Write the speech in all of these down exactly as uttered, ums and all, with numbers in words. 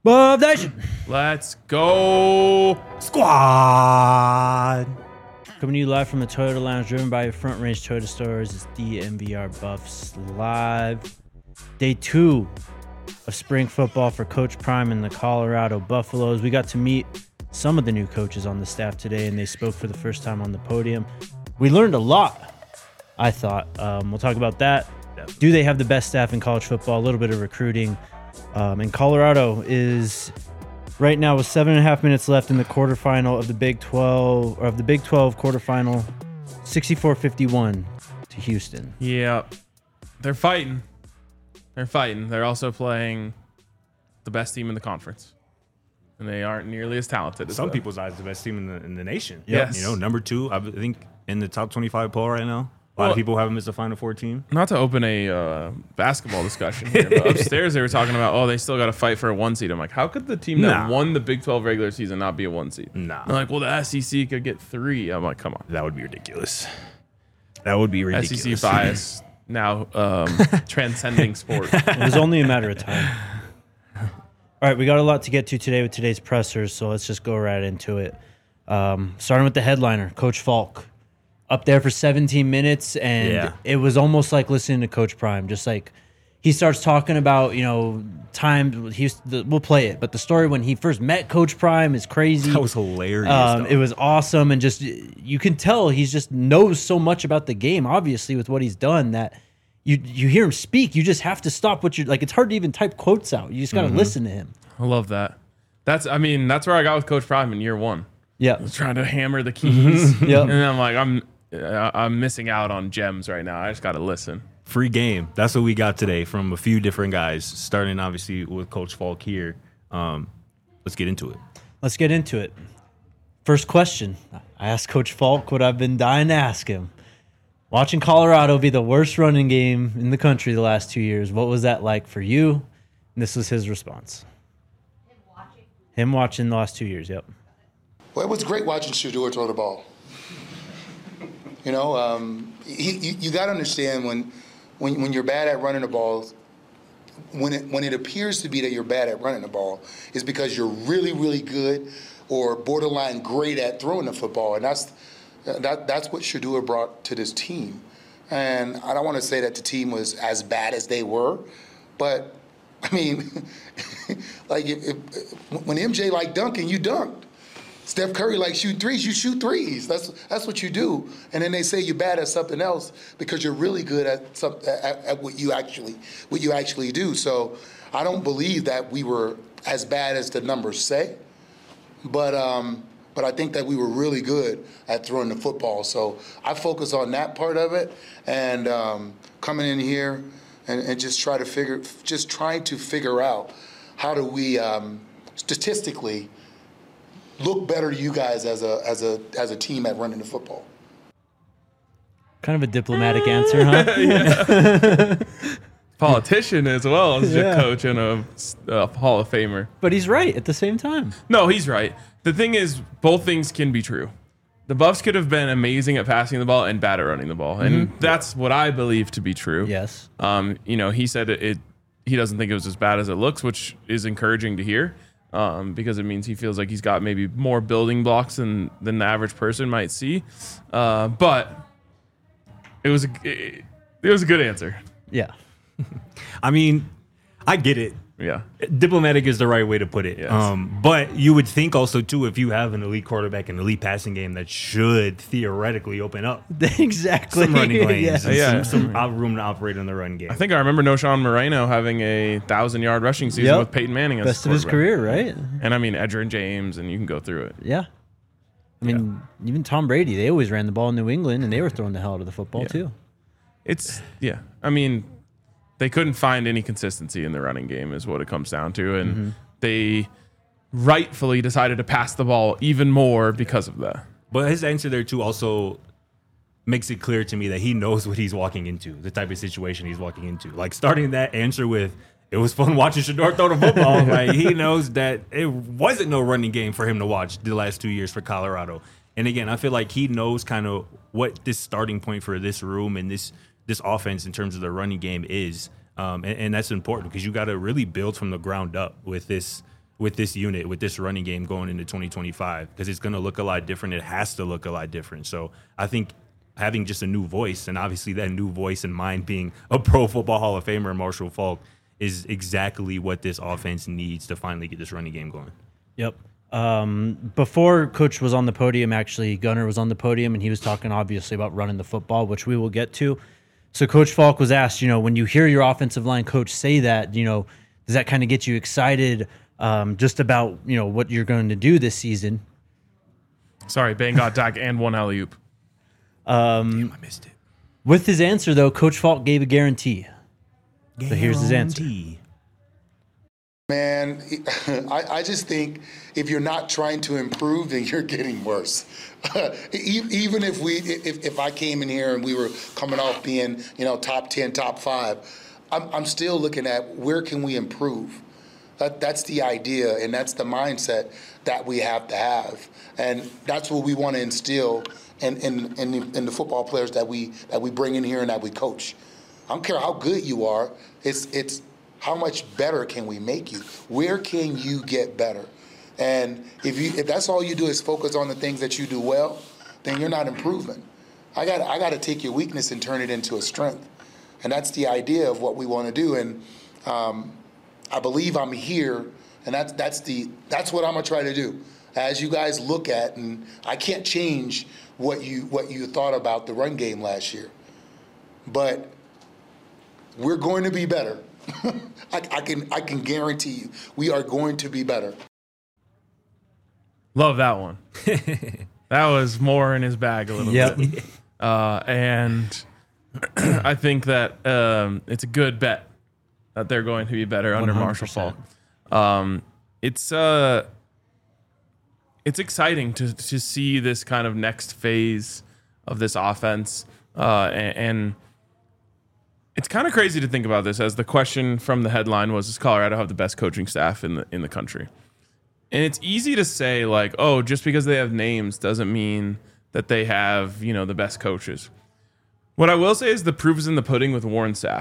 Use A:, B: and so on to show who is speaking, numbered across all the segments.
A: Buff Nation.
B: Let's go.
A: Squad. Coming to you live from the Toyota Lounge, driven by your Front Range Toyota stores. It's D M V R Buffs Live. Day two of spring football for Coach Prime and the Colorado Buffaloes. We got to meet some of the new coaches on the staff today, and they spoke for the first time on the podium. We learned a lot, I thought. Um, we'll talk about that. Do they have the best staff in college football? A little bit of recruiting. Um, and Colorado is right now with seven and a half minutes left in the quarterfinal of the Big twelve, or of the Big twelve quarterfinal, sixty-four fifty-one to Houston.
B: Yeah, they're fighting. They're fighting. They're also playing the best team in the conference, and they aren't nearly as talented as
C: some
B: them.
C: people's eyes the best team in the in the nation.
B: Yes.
C: You know, number two, I think in the top twenty-five poll right now. A lot
B: Well,
C: of people have them as a Final Four team.
B: Not to open a uh, basketball discussion here, but upstairs they were talking about, oh, they still got to fight for a one seed. I'm like, how could the team that
C: Nah.
B: won the Big twelve regular season not be a one seed?
C: Nah.
B: They're like, well, the S E C could get three. I'm like, come on.
C: That would be ridiculous. That would be ridiculous.
B: S E C bias now um, transcending sport.
A: It was only a matter of time. All right, we got a lot to get to today with today's pressers, so let's just go right into it. Um, starting with the headliner, Coach Falk. Up there for seventeen minutes, and
C: Yeah.
A: it was almost like listening to Coach Prime. Just like he starts talking about, you know, time. He used to, we'll play it, but the story when he first met Coach Prime is crazy.
C: That was hilarious.
A: Um,
C: though.
A: it was awesome, and just you can tell he's just knows so much about the game. Obviously, with what he's done, that you you hear him speak, you just have to stop what you're like. It's hard to even type quotes out. You just got to
C: Mm-hmm.
A: listen to him.
B: I love that. That's, I mean, that's where I got with Coach Prime in year one.
A: Yeah,
B: I was trying to hammer the keys.
A: Yep.
B: And I'm like, I'm uh, I'm missing out on gems right now. I just got to listen.
C: Free game. That's what we got today from a few different guys, starting obviously with Coach Falk here. Um, let's get into it.
A: let's get into it. First question. I asked Coach Falk what I've been dying to ask him. Watching Colorado be the worst running game in the country the last two years, what was that like for you? And this was his response. Him watching? Him watching the last two years, yep.
D: Well, it was great watching Shedeur throw the ball. You know, um, he, you, you got to understand when, when when you're bad at running the ball, when it when it appears to be that you're bad at running the ball, is because you're really really good or borderline great at throwing the football, and that's that that's what Shedeur brought to this team. And I don't want to say that the team was as bad as they were, but I mean, like if, if, when M J liked dunking, you dunked. Steph Curry like shoot threes, you shoot threes. That's that's what you do. And then they say you're bad at something else because you're really good at some at, at what you actually what you actually do. So I don't believe that we were as bad as the numbers say, but um, but I think that we were really good at throwing the football. So I focus on that part of it, and um, coming in here and, and just try to figure just trying to figure out how do we um, statistically look better to you guys as a as a as a team at running the football.
A: Kind of a diplomatic answer, huh?
B: Politician as well as
A: Yeah.
B: a coach and a, a Hall of Famer.
A: But he's right at the same time.
B: No, he's right. The thing is, both things can be true. The Buffs could have been amazing at passing the ball and bad at running the ball, and that's what I believe to be true.
A: Yes.
B: Um, you know, he said it, it. He doesn't think it was as bad as it looks, which is encouraging to hear. Um, because it means he feels like he's got maybe more building blocks than than the average person might see. Uh, but it was a, it, it was a good answer.
A: Yeah.
C: I mean, I get it.
B: Yeah.
C: Diplomatic is the right way to put it.
B: Yes.
C: Um, but you would think also, too, if you have an elite quarterback, an elite passing game, that should theoretically open up
A: Exactly.
C: some running lanes,
A: Yes.
C: and
B: Yeah.
C: some, some out room to operate in the run game.
B: I think I remember Noshawn Moreno having a thousand yard rushing season
A: Yep.
B: with Peyton Manning as
A: Best
B: the
A: of his
B: quarterback.
A: career, right?
B: And I mean, Edgerrin James, and you can go through it.
A: Yeah. I mean, even Tom Brady, they always ran the ball in New England, and they were throwing the hell out of the football,
B: Yeah.
A: too.
B: It's, yeah. I mean, they couldn't find any consistency in the running game is what it comes down to. And
A: Mm-hmm.
B: they rightfully decided to pass the ball even more because of that.
C: But his answer there, too, also makes it clear to me that he knows what he's walking into, the type of situation he's walking into. Like, starting that answer with, it was fun watching Shedeur throw the football. Like, he knows that it wasn't no running game for him to watch the last two years for Colorado. And, again, I feel like he knows kind of what this starting point for this room and this this offense in terms of the running game is. Um, and, and that's important because you got to really build from the ground up with this with this unit, with this running game going into twenty twenty-five, because it's going to look a lot different. It has to look a lot different. So I think having just a new voice, and obviously that new voice in mind being a Pro Football Hall of Famer, Marshall Faulk, is exactly what this offense needs to finally get this running game going.
A: Yep. Um, before Coach was on the podium, actually, Gunnar was on the podium, and he was talking obviously about running the football, which we will get to. So Coach Faulk was asked, you know, when you hear your offensive line coach say that, you know, does that kind of get you excited um, just about, you know, what you're going to do this season?
B: Sorry, Bane got Dak and one alley-oop.
A: Um,
C: Damn, I missed it.
A: With his answer, though, Coach Faulk gave a guarantee. So here's his answer.
D: Man, I, I just think if you're not trying to improve, then you're getting worse. Even if we, if, if I came in here and we were coming off being, you know, top ten, top five, I'm, I'm still looking at where can we improve. That, that's the idea, and that's the mindset that we have to have, and that's what we want to instill in in, in, the, in the football players that we that we bring in here and that we coach. I don't care how good you are. It's it's how much better can we make you? Where can you get better? And if you if that's all you do is focus on the things that you do well, then you're not improving. I got I got to take your weakness and turn it into a strength, and that's the idea of what we want to do. And um, I believe I'm here, and that's that's the that's what I'm gonna try to do. As you guys look at, and I can't change what you what you thought about the run game last year, but we're going to be better. I, I can I can guarantee you, we are going to be better.
B: Love that one. That was more in his bag a little
A: Yep.
B: bit. Uh, and I think that um, it's a good bet that they're going to be better under Marshall Faulk. Um, it's uh, it's exciting to to see this kind of next phase of this offense, uh, and, and it's kind of crazy to think about this. As the question from the headline was, does Colorado have the best coaching staff in the in the country? And it's easy to say, like, oh, just because they have names doesn't mean that they have, you know, the best coaches. What I will say is the proof is in the pudding with Warren Sapp.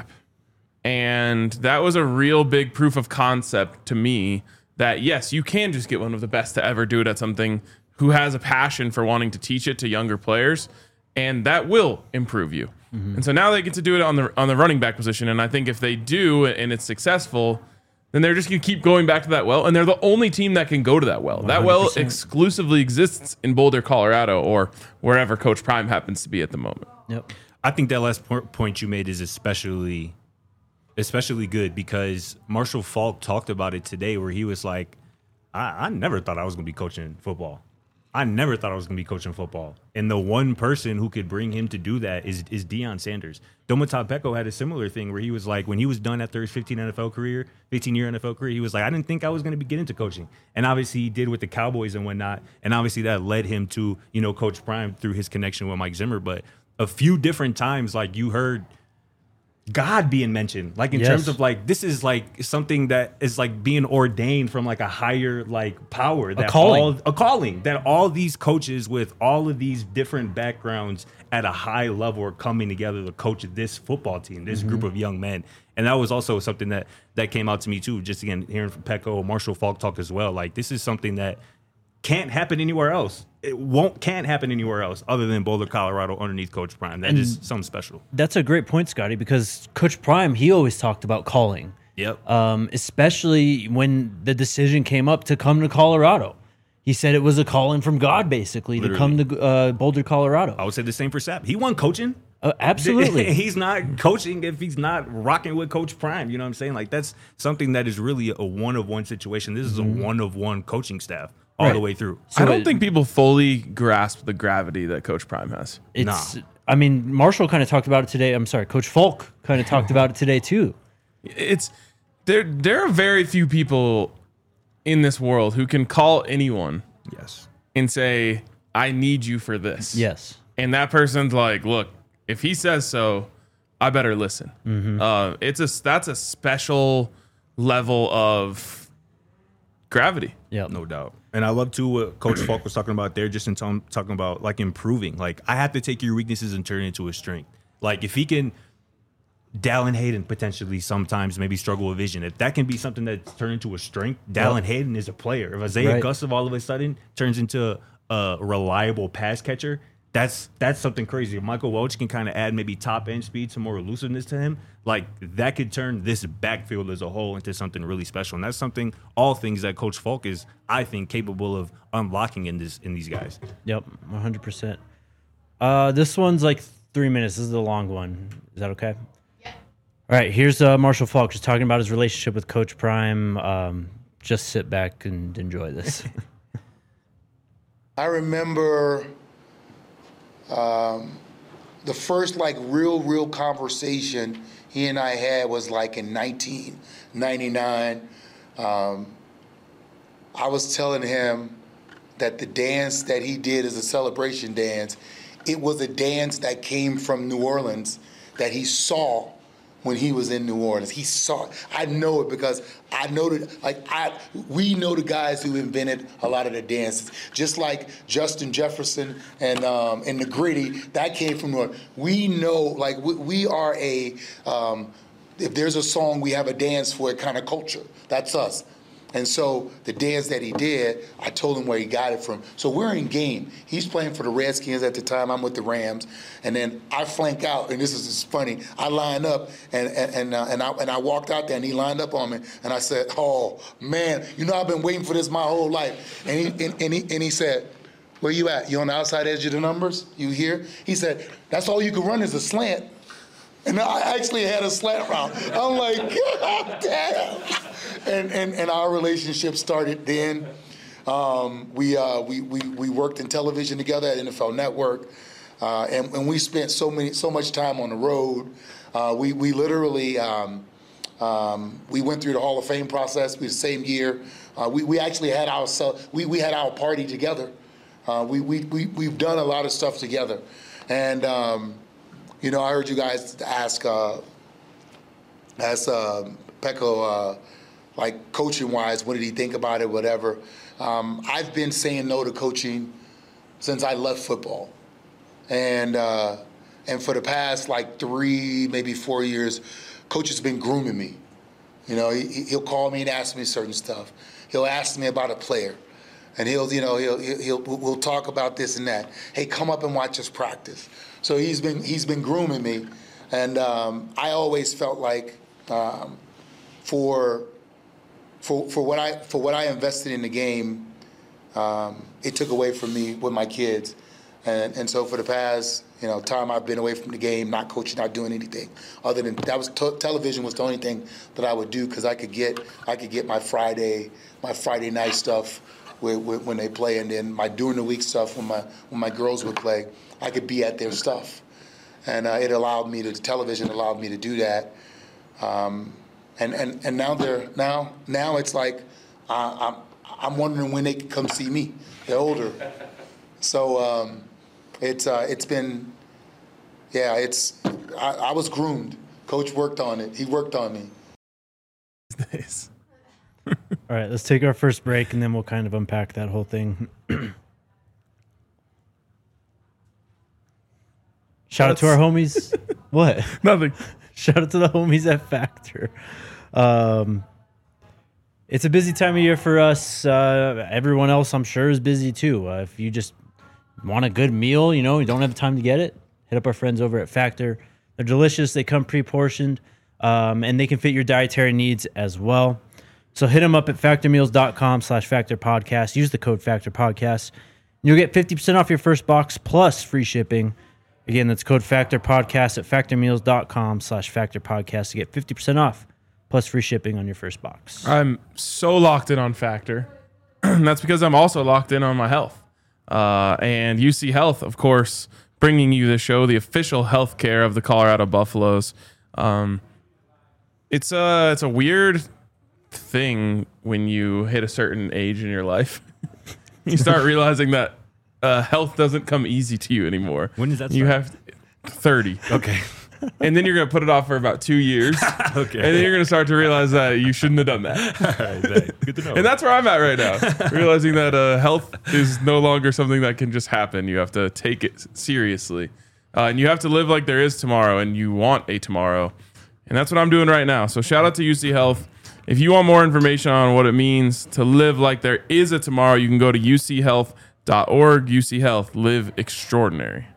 B: And that was a real big proof of concept to me that, yes, you can just get one of the best to ever do it at something who has a passion for wanting to teach it to younger players, and that will improve you. Mm-hmm. And so now they get to do it on the on the running back position, and I think if they do and it's successful, then they're just going to keep going back to that well, and they're the only team that can go to that well. one hundred percent. That well exclusively exists in Boulder, Colorado, or wherever Coach Prime happens to be at the moment.
A: Yep.
C: I think that last point you made is especially especially good because Marshall Faulk talked about it today where he was like, I, I never thought I was going to be coaching football. I never thought I was going to be coaching football. And the one person who could bring him to do that is is Deion Sanders. Domata Beko had a similar thing where he was like, when he was done after his fifteen N F L career, fifteen-year N F L career, he was like, I didn't think I was going to be getting into coaching. And obviously he did with the Cowboys and whatnot. And obviously that led him to, you know, Coach Prime through his connection with Mike Zimmer. But a few different times, like you heard God being mentioned, like in
A: Yes.
C: terms of like, this is like something that is like being ordained from like a higher like power, that
A: calling.
C: all, a calling that all these coaches with all of these different backgrounds at a high level are coming together to coach this football team, this
A: Mm-hmm.
C: group of young men. And that was also something that that came out to me too, just again, hearing from Peko, Marshall Faulk talk as well. Like this is something that can't happen anywhere else. It won't can't happen anywhere else other than Boulder, Colorado, underneath Coach Prime. That
A: And
C: is something special.
A: That's a great point, Scotty, because Coach Prime, he always talked about calling,
C: Yep.
A: um, especially when the decision came up to come to Colorado. He said it was a calling from God, basically, to come to uh, Boulder, Colorado.
C: I would say the same for Sapp. He won coaching.
A: Uh, absolutely.
C: He's not coaching if he's not rocking with Coach Prime. You know what I'm saying? Like that's something that is really a one of one situation. This is a one of one coaching staff all
A: Right.
C: the way through.
A: So
B: I don't
A: it-
B: think people fully grasp the gravity that Coach Prime has.
A: It's,
C: Nah.
A: I mean, Marshall kind of talked about it today. I'm sorry, Coach Falk kind of talked about it today too.
B: It's there. There are very few people in this world who can call anyone
C: Yes.
B: and say, "I need you for this."
A: Yes.
B: And that person's like, "Look, if he says so, I better listen."
A: Mm-hmm.
B: Uh, it's a that's a special level of gravity.
A: Yeah.
C: No doubt. And I love too what Coach Falk was talking about there, just in t- talking about like improving. Like I have to take your weaknesses and turn it into a strength. Like if he can Dallin Hayden potentially sometimes maybe struggle with vision. If that can be something that's turned into a strength, Dallin Hayden is a player. If Isaiah
A: Right.
C: Gustav all of a sudden turns into a reliable pass catcher, that's that's something crazy. If Michael Welch can kind of add maybe top end speed, some more elusiveness to him, like that could turn this backfield as a whole into something really special. And that's something, all things that Coach Falk is, I think, capable of unlocking in this in these guys.
A: Yep, one hundred percent. Uh, this one's like three minutes. This is a long one. Is that okay? Yeah. All right, here's uh, Marshall Falk just talking about his relationship with Coach Prime. Um, just sit back and enjoy this.
D: I remember um, the first like real, real conversation he and I had was like in nineteen ninety-nine. Um, I was telling him that the dance that he did as a celebration dance, it was a dance that came from New Orleans that he saw when he was in New Orleans. He saw it. I know it because I know that, like, I, we know the guys who invented a lot of the dances. Just like Justin Jefferson and um, and the Gritty, that came from New Orleans. We know, like, we, we are a, um, if there's a song, we have a dance for it kind of culture. That's us. And so the dance that he did, I told him where he got it from. So we're in game. He's playing for the Redskins at the time. I'm with the Rams. And then I flank out, and this is just funny. I line up, and and and, uh, and, I, and I walked out there, and he lined up on me. And I said, oh, man, you know I've been waiting for this my whole life. And he, and, and he, and he said, where you at? You on the outside edge of the numbers? You here? He said, that's all you can run is a slant. And I actually had a slant route. I'm like, God damn. And, and and our relationship started then. Um, we, uh, we we we worked in television together at N F L Network, uh, and, and we spent so many so much time on the road. Uh, we we literally um, um, we went through the Hall of Fame process. We the same year. Uh, we we actually had our we we had our party together. Uh, we we we we've done a lot of stuff together, and. Um, You know, I heard you guys ask, uh, ask uh, Peko, uh, like coaching-wise, what did he think about it, whatever. Um, I've been saying no to coaching since I left football, and uh, and for the past like three, maybe four years, Coach has been grooming me. You know, he, he'll call me and ask me certain stuff. He'll ask me about a player, and he'll, you know, he'll he'll we'll talk about this and that. Hey, come up and watch us practice. So he's been he's been grooming me, and um, I always felt like um, for for for what I for what I invested in the game, um, it took away from me with my kids, and and so for the past you know time I've been away from the game, not coaching, not doing anything other than that was t- television was the only thing that I would do because I could get I could get my Friday my Friday night stuff with, with, when they play, and then my during the week stuff when my when my girls would play. I could be at their stuff, and uh, it allowed me to. The television allowed me to do that, um, and and and now they're now now it's like uh, I'm I'm wondering when they can come see me. They're older, so um, it's uh, it's been yeah it's I, I was groomed. Coach worked on it. He worked on me.
B: Nice.
A: All right, let's take our first break, and then we'll kind of unpack that whole thing. Shout out to our homies. What?
B: Nothing.
A: Shout out to the homies at Factor. Um, it's a busy time of year for us. Uh, everyone else, I'm sure, is busy too. Uh, if you just want a good meal, you know, you don't have time to get it, hit up our friends over at Factor. They're delicious. They come pre-portioned, um, and they can fit your dietary needs as well. So hit them up at factormeals.com slash factor podcast. Use the code factor podcast. You'll get fifty percent off your first box plus free shipping. Again, that's code factor podcast at factormeals.com slash factor podcast to get fifty percent off plus free shipping on your first box.
B: I'm so locked in on Factor. That's because I'm also locked in on my health. Uh, and U C Health, of course, bringing you the show, the official healthcare of the Colorado Buffaloes. Um, it's a, it's a weird thing when you hit a certain age in your life. You start realizing that uh, health doesn't come easy to you anymore.
C: When does that
B: You
C: start?
B: have thirty.
C: Okay.
B: And then you're going to put it off for about two years.
C: Okay.
B: And then you're going to start to realize that you shouldn't have done that.
C: All right, thanks. Good to know.
B: And that's where I'm at right now. Realizing that uh, health is no longer something that can just happen. You have to take it seriously. Uh, and you have to live like there is tomorrow, and you want a tomorrow. And that's what I'm doing right now. So shout out to U C Health. If you want more information on what it means to live like there is a tomorrow, you can go to u c health dot org. U C Health, live extraordinary.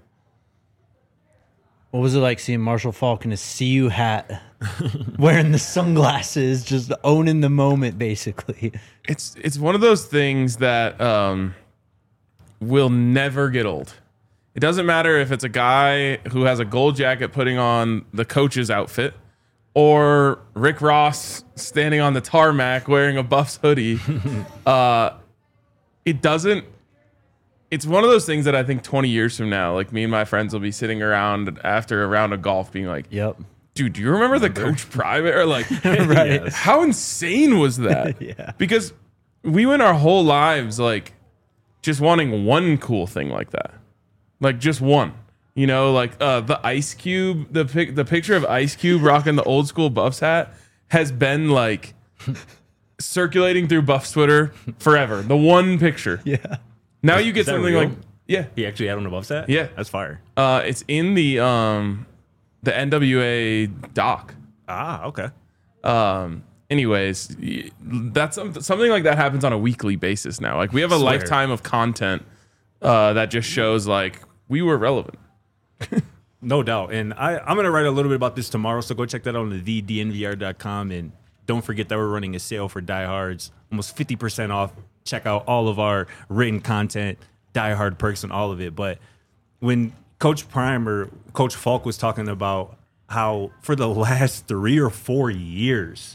A: What was it like seeing Marshall Faulk in a C U hat, wearing the sunglasses, just owning the moment, basically?
B: It's it's one of those things that um, will never get old. It doesn't matter if it's a guy who has a gold jacket putting on the coach's outfit, or Rick Ross standing on the tarmac wearing a Buffs hoodie. uh, it doesn't. It's one of those things that I think twenty years from now, like me and my friends will be sitting around after a round of golf being like,
A: Yep.
B: dude, do you remember the Coach Prime? Or like,
A: Right.
B: yes. How insane was that?
A: Yeah.
B: Because we went our whole lives like just wanting one cool thing like that. Like just one. You know, like uh, the Ice Cube, the pic- the picture of Ice Cube rocking the old school Buffs hat has been like circulating through Buffs Twitter forever. The one picture.
A: Yeah.
B: Now you get
C: Is that
B: something
C: real?
B: like, yeah,
C: He actually had on above set?
B: Yeah.
C: That's fire.
B: uh, it's in the um, the N W A doc.
C: Ah, okay.
B: Um, anyways, y- that's some- something like that happens on a weekly basis now. Like we have a
C: Swear.
B: lifetime of content uh, that just shows like we were relevant.
C: No doubt. And I, I'm going to write a little bit about this tomorrow, so go check that out on the d n v r dot com. And don't forget that we're running a sale for diehards, almost fifty percent off. Check out all of our written content, diehard perks, and all of it. But when Coach Prime or Coach Falk was talking about how for the last three or four years,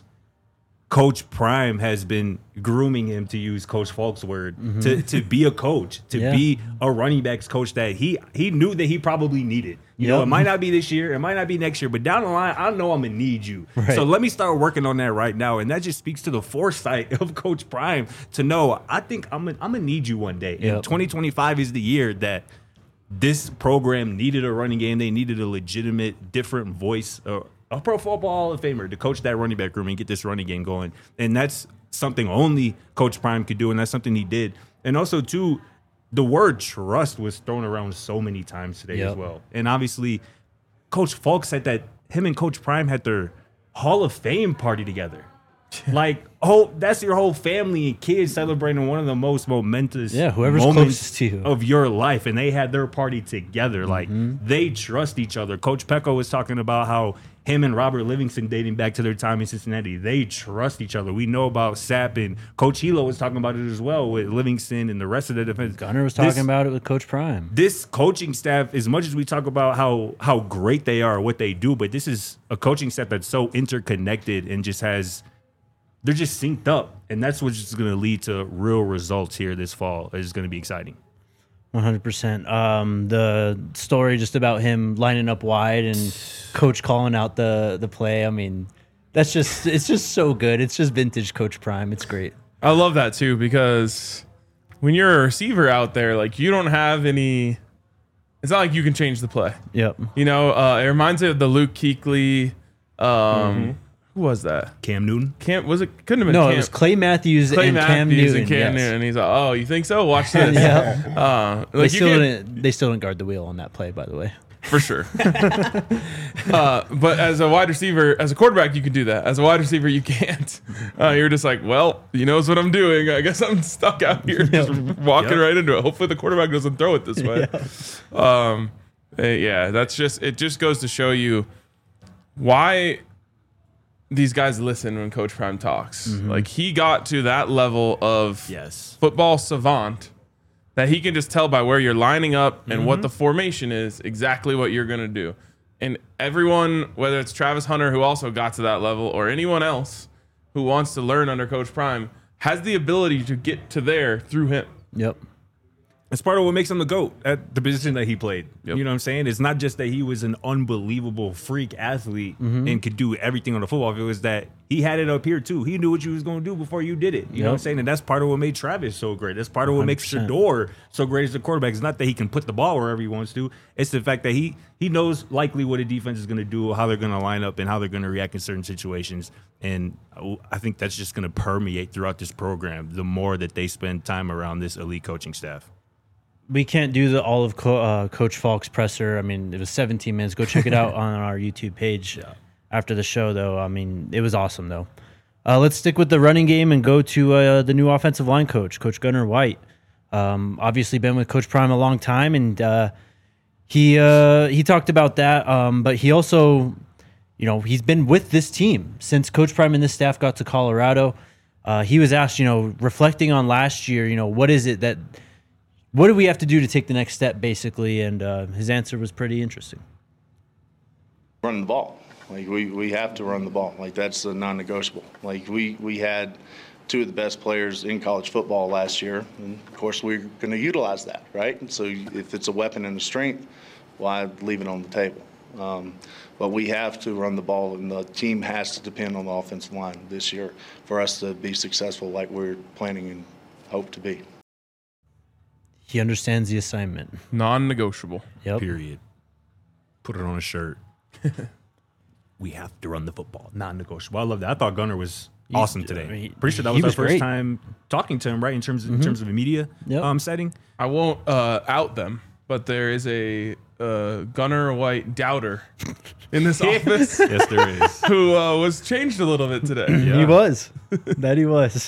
C: Coach Prime has been grooming him, to use Coach Falk's word,
A: Mm-hmm.
C: to, to be a coach, to
A: Yeah.
C: be a running backs coach that he he knew that he probably needed. You know,
A: Yep.
C: it might not be this year, it might not be next year, but down the line, I know I'm gonna need you.
A: Right.
C: So let me start working on that right now, and that just speaks to the foresight of Coach Prime to know I think I'm gonna, I'm gonna need you one day.
A: Yep.
C: And twenty twenty-five is the year that this program needed a running game. They needed a legitimate, different voice, uh, a Pro Football Hall of Famer to coach that running back room and get this running game going. And that's something only Coach Prime could do, and that's something he did. And also, too, the word trust was thrown around so many times today
A: Yep.
C: as well. And obviously, Coach Falk said that him and Coach Prime had their Hall of Fame party together. Like, oh, that's your whole family and kids celebrating one of the most momentous
A: Yeah, whoever's
C: moments
A: closest to you.
C: of your life, and they had their party together. Like,
A: Mm-hmm.
C: they trust each other. Coach Pecco was talking about how him and Robert Livingston, dating back to their time in Cincinnati, they trust each other. We know about Sapp, and Coach Hilo was talking about it as well with Livingston and the rest of the defense.
A: Gunner was talking
C: This-
A: about it with Coach Prime.
C: this coaching staff, as much as we talk about how how great they are, what they do, but this is a coaching staff that's so interconnected and just has, they're just synced up, and that's what's just going to lead to real results here this fall. It's going to be exciting.
A: one hundred percent. Um, the story just about him lining up wide and Coach calling out the the play. I mean, that's just it's just so good. It's just vintage Coach Prime. It's great.
B: I love that too, because when you're a receiver out there, like you don't have any. It's not like you can change the play.
A: Yep.
B: You know, uh, it reminds me of the Luke Kuechly. Um, Who was that?
C: Cam Newton.
B: Cam was it? Couldn't have been.
A: No,
B: Cam.
A: it was Clay Matthews
B: Clay
A: and Cam
B: Matthews
A: Newton.
B: and Cam
A: yes.
B: Newton. And he's like, oh, you think so? Watch this.
A: Yeah.
B: Uh,
A: They
B: like you
A: still
B: can't-
A: didn't. They still didn't guard the wheel on that play, by the way.
B: for sure. uh, but as a wide receiver, as a quarterback, you can do that. As a wide receiver, you can't. Uh, you're just like, well, he knows what I'm doing. I guess I'm stuck out here, just walking
C: Yep.
B: right into it. Hopefully, the quarterback doesn't throw it this way. Um, eh, yeah, that's just it. Just goes to show you why these guys listen when Coach Prime talks. Like he got to that level of
C: Yes.
B: football savant that he can just tell by where you're lining up and what the formation is exactly what you're going to do. And everyone, whether it's Travis Hunter, who also got to that level, or anyone else who wants to learn under Coach Prime, has the ability to get to there through him.
A: Yep.
C: It's part of what makes him the GOAT at the position that he played.
B: Yep.
C: You know what I'm saying? It's not just that he was an unbelievable freak athlete
A: Mm-hmm.
C: and could do everything on the football field. It was that he had it up here too. He knew what you was going to do before you did it. You know what I'm
A: Yep.
C: saying? And that's part of what made Travis so great. That's part of what makes
A: one hundred percent.
C: Shador so great as a quarterback. It's not that he can put the ball wherever he wants to. It's the fact that he he knows likely what a defense is going to do, how they're going to line up, and how they're going to react in certain situations. And I think that's just going to permeate throughout this program the more that they spend time around this elite coaching staff.
A: We can't do the all of Co- uh, Coach Falk's presser. I mean, it was seventeen minutes. Go check it out on our YouTube page after the show, though. I mean, it was awesome, though. Uh, let's stick with the running game and go to uh, the new offensive line coach, Coach Gunnar White. Um, obviously been with Coach Prime a long time, and uh, he uh, he talked about that. Um, but he also, you know, he's been with this team since Coach Prime and this staff got to Colorado. Uh, he was asked, you know, reflecting on last year, you know, what is it that, what do we have to do to take the next step, basically? And uh, his answer was pretty interesting.
E: Run the ball. Like we, we have to run the ball. Like that's a non-negotiable. Like we, we had two of the best players in college football last year, and of course we're going to utilize that, right? And so if it's a weapon and a strength, why leave it on the table? Um, but we have to run the ball, and the team has to depend on the offensive line this year for us to be successful, like we're planning and hope to be.
A: He understands the assignment.
B: Non-negotiable.
A: Yep.
C: Period. Put it on a shirt. We have to run the football. Non-negotiable. I love that. I thought Gunnar was awesome today.
A: I mean,
C: Pretty sure that
A: he
C: was our
A: was
C: first
A: great.
C: time talking to him, right? In terms of, in terms of a media
A: Yep.
C: um, setting.
B: I won't uh, out them, but there is a uh, Gunnar White doubter in this office
C: Yes, there is.
B: who uh, was changed a little bit today.
A: He was. That he was.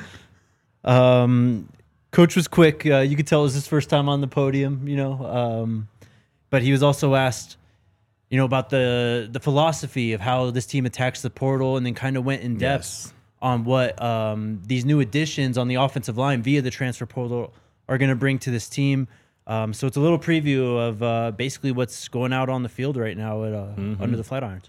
A: Um, Coach was quick. Uh, you could tell it was his first time on the podium, you know. Um, but he was also asked, you know, about the the philosophy of how this team attacks the portal, and then kind of went in depth
C: Yes.
A: on what um, these new additions on the offensive line via the transfer portal are going to bring to this team. Um, so it's a little preview of uh, basically what's going out on the field right now at uh, under the Flatirons.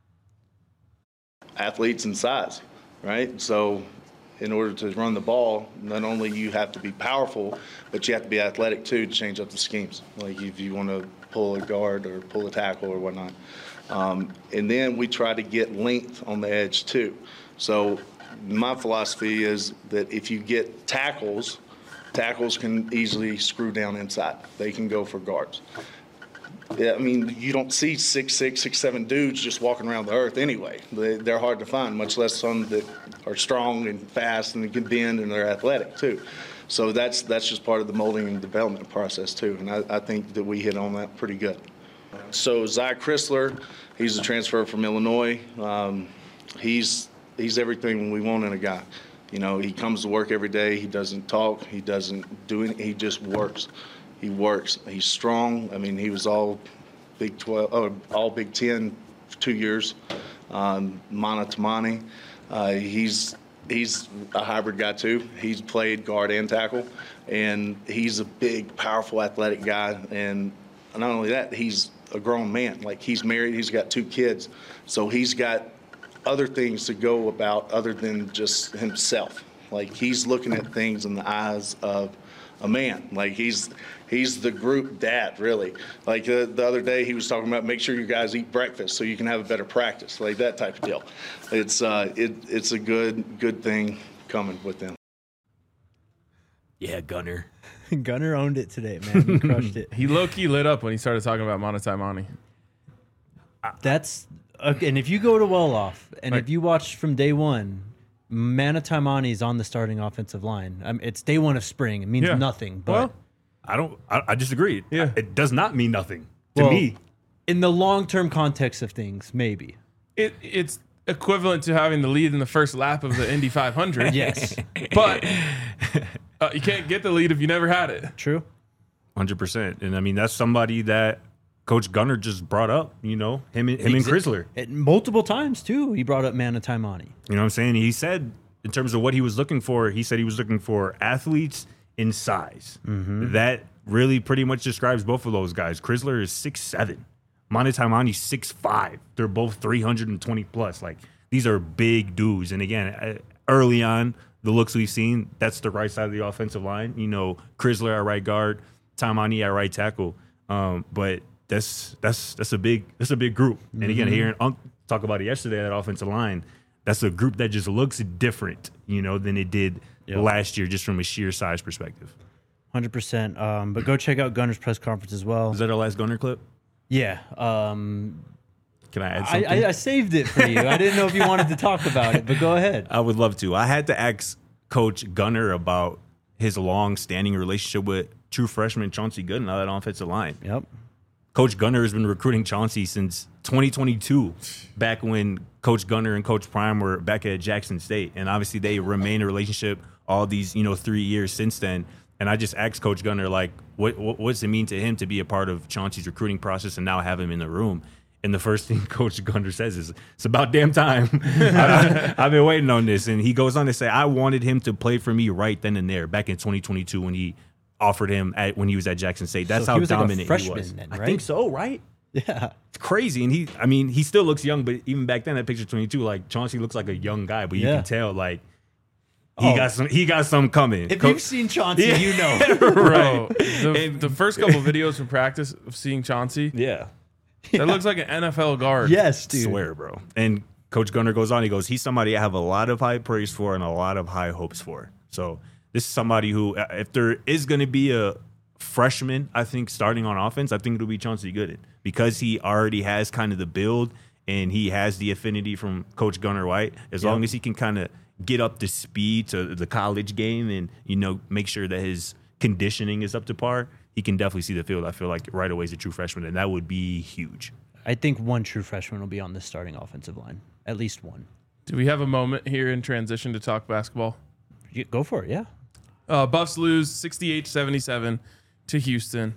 E: Athletes and size, right? So in order to run the ball, not only you have to be powerful, but you have to be athletic too to change up the schemes. Like if you want to pull a guard or pull a tackle or whatnot. Um, and then we try to get length on the edge too. So my philosophy is that if you get tackles, tackles can easily screw down inside. They can go for guards. Yeah, I mean, you don't see six, six, six, seven dudes just walking around the earth anyway. They, they're hard to find, much less some that are strong and fast and can bend and they're athletic too. So that's that's just part of the molding and development process too. And I, I think that we hit on that pretty good. So Zy Chrysler, he's a transfer from Illinois. Um, he's he's everything we want in a guy. You know, he comes to work every day. He doesn't talk. He doesn't do anything. He just works. He works. He's strong. I mean, he was all Big twelve, oh, all Big Ten for two years. Um, Mana Tamani, uh, he's he's a hybrid guy too. He's played guard and tackle, and he's a big, powerful, athletic guy. And not only that, he's a grown man. Like he's married. He's got two kids, so he's got other things to go about other than just himself. Like he's looking at things in the eyes of a man. Like he's he's the group dad, really. Like uh, the other day he was talking about make sure you guys eat breakfast so you can have a better practice, like that type of deal. It's uh, it it's a good good thing coming with them.
C: Yeah, Gunnar.
A: Gunnar owned it today, man. He crushed it.
B: He low-key lit up when he started talking about Mana Taimani.
A: That's okay, and if you go to Wolof and
B: Right.
A: if you watch from day one, Mana Taimani is on the starting offensive line. Um, it's day one of spring. It means
B: Yeah.
A: nothing, but
C: Well, I don't. I, I disagree.
B: Yeah.
C: It does not mean nothing to
A: Well,
C: me.
A: in the long-term context of things, maybe.
B: It it's equivalent to having the lead in the first lap of the Indy five hundred.
A: Yes,
B: But uh, you can't get the lead if you never had it.
A: true.
C: Hundred percent. And I mean, that's somebody that Coach Gunnar just brought up. You know, him and him and Chrysler.
A: It, multiple times too. He brought up Mana Taimani.
C: You know what I'm saying? He said, in terms of what he was looking for, he said he was looking for athletes in size. That really pretty much describes both of those guys. Chrysler is six seven. Mana Taimani six five. They're both three hundred twenty plus. Like, these are big dudes. And again, uh, early on, the looks we've seen, that's the right side of the offensive line. You know, Chrysler at right guard, Taimani at right tackle. Um, but that's that's that's a big that's a big group. And again, hearing Unc talk about it yesterday, that offensive line, that's a group that just looks different, you know, than it did
A: Yep.
C: last year, just from a sheer size perspective.
A: one hundred percent. Um, but go check out Gunnar's press conference as well.
C: Is that our last Gunnar clip?
A: Yeah. Um,
C: Can I add
A: I,
C: something?
A: I, I saved it for you. I didn't know if you wanted to talk about it, but go ahead.
C: I would love to. I had to ask Coach Gunnar about his long-standing relationship with true freshman Chauncey Gooden on that offensive line.
A: Yep.
C: Coach Gunner has been recruiting Chauncey since twenty twenty-two, back when Coach Gunner and Coach Prime were back at Jackson State. And obviously they remain a relationship all these, you know, three years since then. And I just asked Coach Gunner, like, what, what what's it mean to him to be a part of Chauncey's recruiting process and now have him in the room? And the first thing Coach Gunner says is, it's about damn time. I, I've been waiting on this. And he goes on to say, I wanted him to play for me right then and there back in twenty twenty-two when he offered him at when he was at Jackson State. That's
A: So
C: how
A: he was like a
C: dominant
A: freshman
C: he was.
A: then,
C: I
A: right?
C: think so, right?
A: Yeah.
C: It's crazy. And he, I mean, he still looks young, but even back then at picture twenty-two, like Chauncey looks like a young guy, but you
A: Yeah.
C: can tell like he
A: Oh.
C: got some he got some coming.
A: If
C: Co-
A: you've seen Chauncey,
C: Yeah.
A: you know.
B: Bro, the, the first couple videos from practice of seeing Chauncey,
C: yeah.
B: that looks like an N F L guard.
A: Yes, dude.
C: Swear, bro. And Coach Gunner goes on. He goes, he's somebody I have a lot of high praise for and a lot of high hopes for. So this is somebody who, if there is going to be a freshman, I think, starting on offense, I think it'll be Chauncey Gooden because he already has kind of the build and he has the affinity from Coach Gunner White. As
A: Yep.
C: long as he can kind of get up to speed to the college game and, you know, make sure that his conditioning is up to par, he can definitely see the field. I feel like right away is a true freshman, and that would be huge.
A: I think one true freshman will be on this starting offensive line. At least one.
B: Do we have a moment here in transition to talk basketball?
A: You- Go for it, yeah.
B: Uh, Buffs lose sixty-eight seventy-seven to Houston.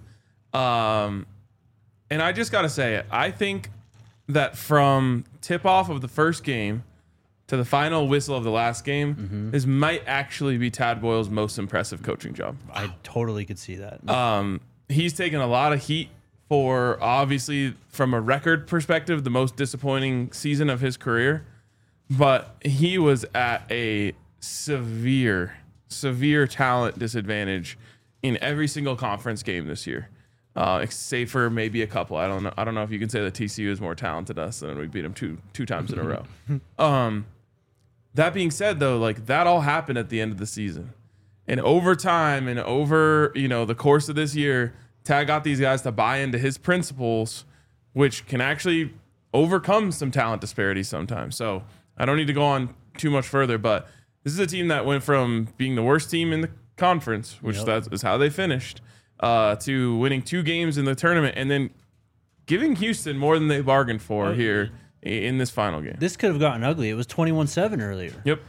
B: Um, and I just got to say it. I think that from tip-off of the first game to the final whistle of the last game,
A: Mm-hmm.
B: this might actually be Tad Boyle's most impressive coaching job.
A: I totally could see that.
B: Um, he's taken a lot of heat for, obviously, from a record perspective, the most disappointing season of his career. But he was at a severe, severe talent disadvantage in every single conference game this year. Uh, save for maybe a couple. I don't know. I don't know if you can say that T C U is more talented than us, and we beat them two two times in a row. Um, that being said, though, like that all happened at the end of the season, and over time and over you know the course of this year, Tad got these guys to buy into his principles, which can actually overcome some talent disparities sometimes. So I don't need to go on too much further, but this is a team that went from being the worst team in the conference, which
A: Yep.
B: that is how they finished, uh, to winning two games in the tournament and then giving Houston more than they bargained for
A: Oh,
B: here i- in this final game.
A: This could have gotten ugly. It was twenty-one seven earlier.
B: Yep.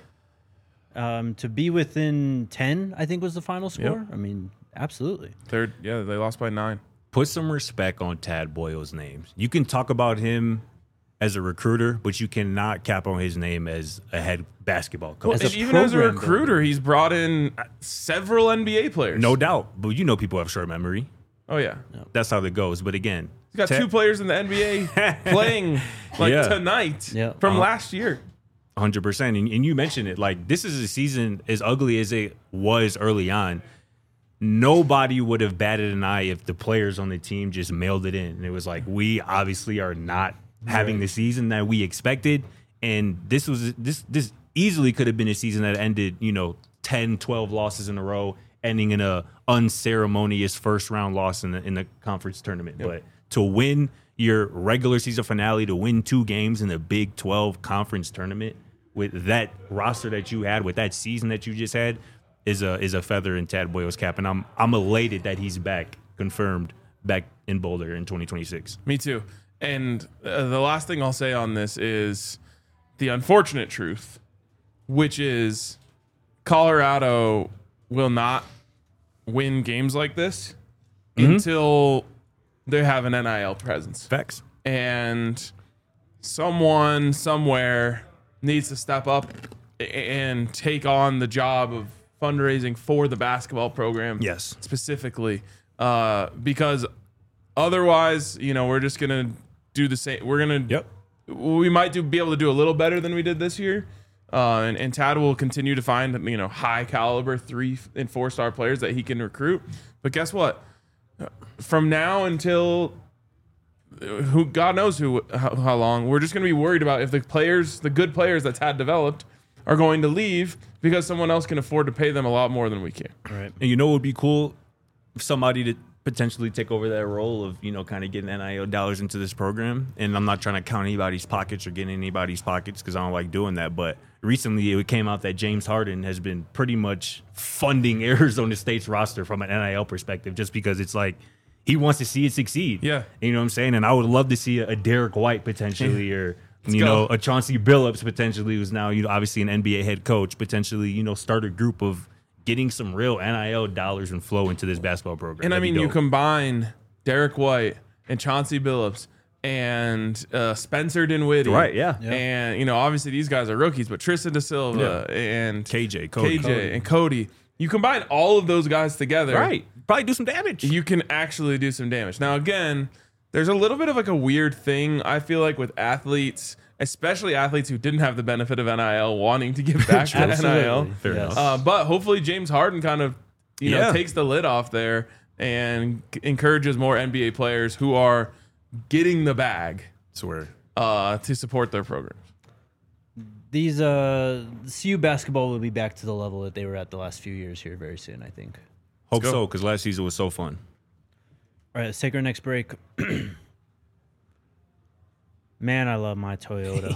A: Um, to be within ten, I think was the final score.
B: Yep.
A: I mean, absolutely.
B: Third, yeah, they lost by nine.
C: Put some respect on Tad Boyle's name. You can talk about him as a recruiter, but you cannot cap on his name as a head basketball coach.
A: As
B: And
A: a
B: even as a
A: program
B: recruiter, he's brought in several N B A players.
C: No doubt. But you know people have short memory.
B: Oh, yeah.
C: That's how it goes. But again,
B: He's got
C: Tad-
B: two players in the N B A playing like
C: Yeah.
B: tonight
A: Yeah.
B: from
C: Uh-huh.
B: last year.
C: one hundred percent. And, and you mentioned it. Like, this is a season as ugly as it was early on. Nobody would have batted an eye if the players on the team just mailed it in. And it was like, we obviously are not having the season that we expected. And this was this this easily could have been a season that ended, you know, ten, twelve losses in a row, ending in a unceremonious first round loss in the in the conference tournament. But to win your regular season finale, to win two games in the Big twelve conference tournament with that roster that you had, with that season that you just had, is a is a feather in Tad Boyle's cap. And I'm I'm elated that he's back, confirmed back in Boulder in twenty twenty-six.
B: Me too. And uh, the last thing I'll say on this is the unfortunate truth, which is Colorado will not win games like this until they have an N I L presence.
C: Facts.
B: And someone somewhere needs to step up a- and take on the job of fundraising for the basketball program.
C: Yes.
B: Specifically, uh, because otherwise, you know, we're just gonna do the same. We're gonna.
C: Yep.
B: We might do be able to do a little better than we did this year. Uh, and, and Tad will continue to find, you know, high caliber three and four star players that he can recruit. But guess what? From now until who God knows who how, how long, we're just going to be worried about if the players, the good players that Tad developed, are going to leave because someone else can afford to pay them a lot more than we can.
A: Right.
C: And you know what would be cool? Somebody to potentially take over that role of, you know, kind of getting N I L dollars into this program. And I'm not trying to count anybody's pockets or get in anybody's pockets because I don't like doing that. But recently it came out that James Harden has been pretty much funding Arizona State's roster from an N I L perspective, just because it's like, he wants to see it succeed.
B: Yeah.
C: You know what I'm saying? And I would love to see a, a Derek White potentially or, you
B: go.
C: know, a Chauncey Billups potentially, who's now, you know, obviously an N B A head coach, potentially, you know, start a group of getting some real N I L dollars and flow into this basketball program.
B: And I
C: That'd be
B: mean, you
C: dope.
B: combine Derek White and Chauncey Billups and uh, Spencer Dinwiddie.
C: Right, yeah.
A: Yeah.
B: And, you know, obviously these guys are rookies, but Tristan Da Silva and
C: K J, Cody.
B: K J
C: Cody.
B: and Cody. You combine all of those guys together.
C: Right. Probably do some damage.
B: You can actually do some damage. Now, again, there's a little bit of like a weird thing, I feel like, with athletes, especially athletes who didn't have the benefit of N I L wanting to give back to N I L.
C: Fair
A: Yes.
C: enough.
B: Uh, but hopefully James Harden kind of, you know,
C: Yeah.
B: takes the lid off there and c- encourages more N B A players who are getting the bag
C: Swear.
B: uh, to support their programs.
A: These uh, C U basketball will be back to the level that they were at the last few years here very soon, I think.
C: Hope
B: go.
C: so, because last season was so fun.
A: All right, let's take our next break. Man, I love my Toyota.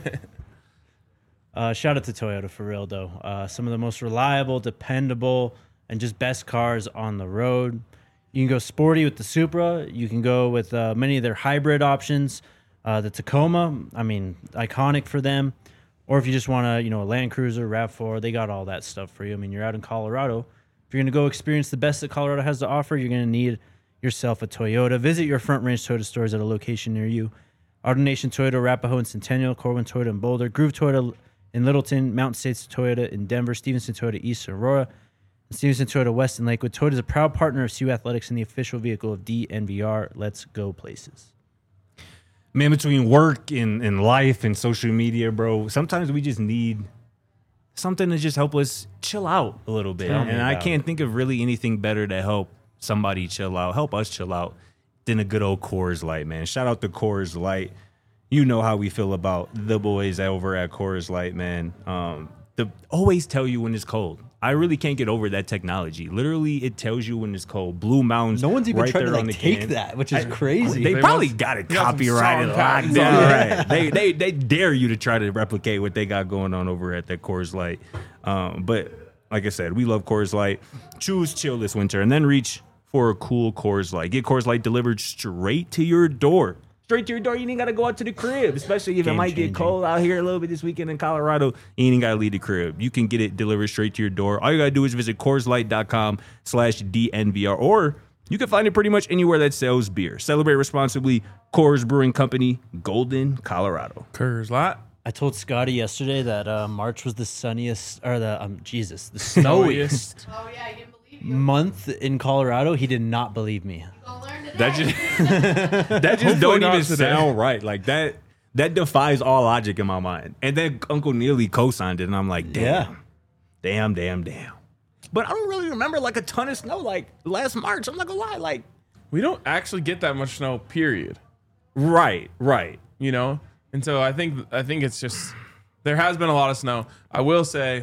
A: uh, shout out to Toyota for real, though. Uh, some of the most reliable, dependable, and just best cars on the road. You can go sporty with the Supra. You can go with uh, many of their hybrid options. Uh, the Tacoma, I mean, iconic for them. Or if you just want to, you know, a Land Cruiser, RAV four, they got all that stuff for you. I mean, you're out in Colorado. If you're going to go experience the best that Colorado has to offer, you're going to need yourself a Toyota. Visit your Front Range Toyota stores at a location near you. Auto Nation Toyota, Arapahoe and Centennial, Corwin Toyota in Boulder, Groove Toyota in Littleton, Mountain States Toyota in Denver, Stevenson Toyota East in Aurora, and Stevenson Toyota West in Lakewood. Toyota is a proud partner of C U Athletics and the official vehicle of D N V R. Let's go places.
C: Man, between work and, and life and social media, bro, sometimes we just need something to just help us chill out a little bit.
A: Tell me
C: And I
A: about
C: can't
A: it.
C: think of really anything better to help somebody chill out, help us chill out, than a good old Coors Light, man. Shout out to Coors Light. You know how we feel about the boys over at Coors Light, man. Um, the always tell you when it's cold. I really can't get over that technology. Literally, it tells you when it's cold. Blue Mountains.
A: No one's even
C: right
A: tried to
C: there on
A: like
C: the
A: take
C: can.
A: that, which is crazy.
C: They,
B: They
C: probably
B: must-
C: got it
B: they got some
C: copyrighted,
B: strong
C: locked
B: patents
C: down.
B: on it.
C: Right. They, they they dare you to try to replicate what they got going on over at that Coors Light. Um, but like I said, we love Coors Light. Choose chill this winter and then reach for a cool Coors Light. Get Coors Light delivered straight to your door. Straight to your door. You ain't got to go out to the crib, especially if it
A: Game
C: might
A: changing.
C: get cold out here a little bit this weekend in Colorado. You ain't got to leave the crib. You can get it delivered straight to your door. All you got to do is visit CoorsLight.com slash DNVR, or you can find it pretty much anywhere that sells beer. Celebrate responsibly. Coors Brewing Company, Golden, Colorado.
B: Curse lot.
A: I told Scotty yesterday that uh, March was the sunniest, or the, um, Jesus, the snowiest
F: Oh yeah, I didn't believe you.
A: month in Colorado. He did not believe me.
F: Go learn today.
C: That just that just
B: Hopefully
C: don't
B: not
C: even
B: today.
C: sound right. Like that that defies all logic in my mind. And then Uncle Neely co-signed it, and I'm like, damn,
A: Yeah.
C: damn, damn, damn. But I don't really remember like a ton of snow like last March. I'm not gonna lie, like
B: We don't actually get that much snow, period.
C: right, right.
B: You know? And so I think I think it's just there has been a lot of snow. I will say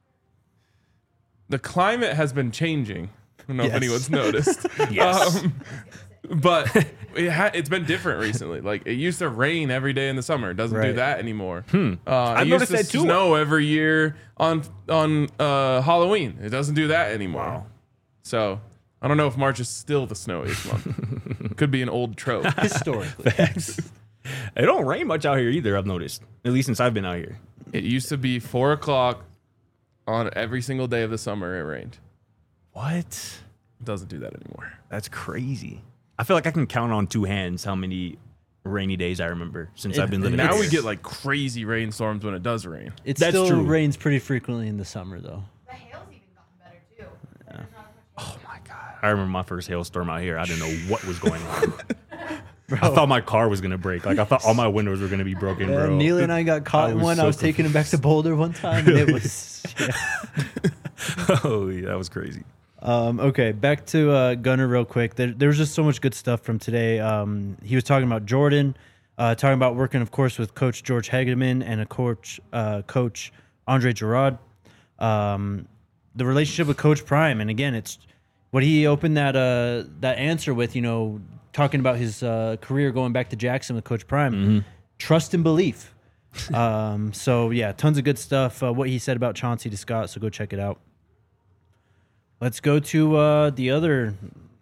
B: the climate has been changing. I don't know
A: Yes.
B: if anyone's noticed.
C: Yes.
B: Um, but it ha- it's been different recently. Like it used to rain every day in the summer. It doesn't do
A: Right.
B: that anymore. Hmm. Uh,
C: I've
B: it
C: noticed
B: used to
C: that too.
B: snow every year on on uh, Halloween. It doesn't do that anymore. So I don't know if March is still the snowiest month. Could be an old trope.
A: Historically.
C: It don't rain much out here either, I've noticed. At least since I've been out here.
B: It used to be four o'clock on every single day of the summer. It rained.
C: What?
B: It doesn't do that anymore.
C: That's crazy. I feel like I can count on two hands how many rainy days I remember since I've been living
B: Now
C: here.
B: we get like crazy rainstorms when it does rain.
A: It
C: That's
A: still
C: true.
A: rains pretty frequently in the summer, though.
F: The hail's even gotten better too. There's not as much hail.
C: Oh my god! I remember my first hailstorm out here. I didn't know what was going on. I thought my car was gonna break. Like I thought all my windows were gonna be broken,
A: Yeah,
C: bro.
A: Neely and I got caught
C: I
A: in
C: was
A: one. I
C: so
A: was taking him back to Boulder one time, and it was. Yeah.
C: oh, yeah, that was crazy.
A: Um, okay, back to uh, Gunner real quick. There, there was just so much good stuff from today. Um, he was talking about Jordan, uh, talking about working, of course, with Coach George Hegeman and a coach, uh, Coach Andre Gerard. Um, the relationship with Coach Prime, and again, it's what he opened that uh, that answer with. You know, talking about his uh, career going back to Jackson with Coach Prime. Trust and belief. um, so yeah, tons of good stuff. Uh, what he said about Chauncey to Scott. So go check it out. Let's go to uh, the other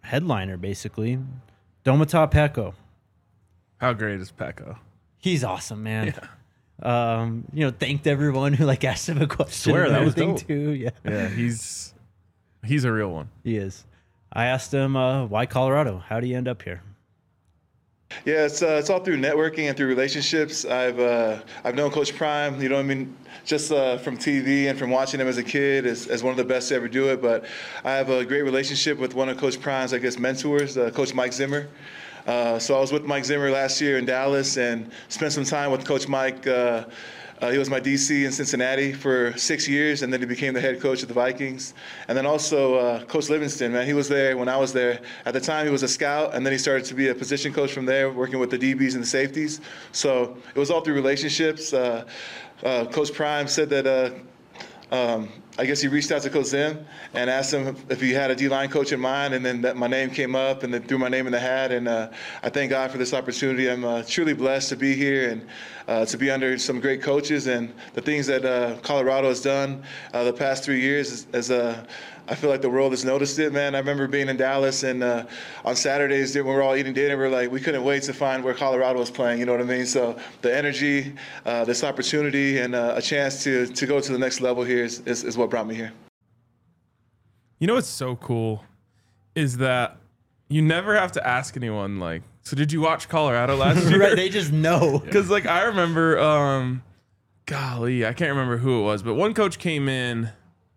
A: headliner, basically. Domata Peko.
B: How great is Peko?
A: He's awesome, man. Yeah. Um, you know, thanked everyone who like asked him a question.
C: Swear,
A: and
C: that was
A: everything,
C: dope.
A: too. Yeah,
B: Yeah, he's he's a real one.
A: he is. I asked him, uh, why Colorado? How do you end up here?
E: Yeah, it's uh, it's all through networking and through relationships. I've uh, I've known Coach Prime, you know what I mean, just uh, from T V and from watching him as a kid as, as one of the best to ever do it. But I have a great relationship with one of Coach Prime's, I guess, mentors, uh, Coach Mike Zimmer. Uh, so I was with Mike Zimmer last year in Dallas and spent some time with Coach Mike. Uh, Uh, he was my D C in Cincinnati for six years, and then he became the head coach of the Vikings. And then also uh, Coach Livingston, man, he was there when I was there. At the time, he was a scout, and then he started to be a position coach from there, working with the D Bs and the safeties. So it was all through relationships. Uh, uh, Coach Prime said that uh, um, I guess he reached out to Coach Zim and asked him if he had a D-line coach in mind, and then that my name came up, and then threw my name in the hat. And uh, I thank God for this opportunity. I'm uh, truly blessed to be here and uh, to be under some great coaches, and the things that uh, Colorado has done uh, the past three years is, is uh, I feel like the world has noticed it, man. I remember being in Dallas, and uh, on Saturdays when we were all eating dinner, we were like, we couldn't wait to find where Colorado was playing, you know what I mean? So the energy, uh, this opportunity, and uh, a chance to to go to the next level here is, is, is what brought me here.
B: You know what's so cool is that you never have to ask anyone, like, so did you watch Colorado last year?
A: Right, they just know.
B: Because, like, I remember, um, golly, I can't remember who it was, but one coach came in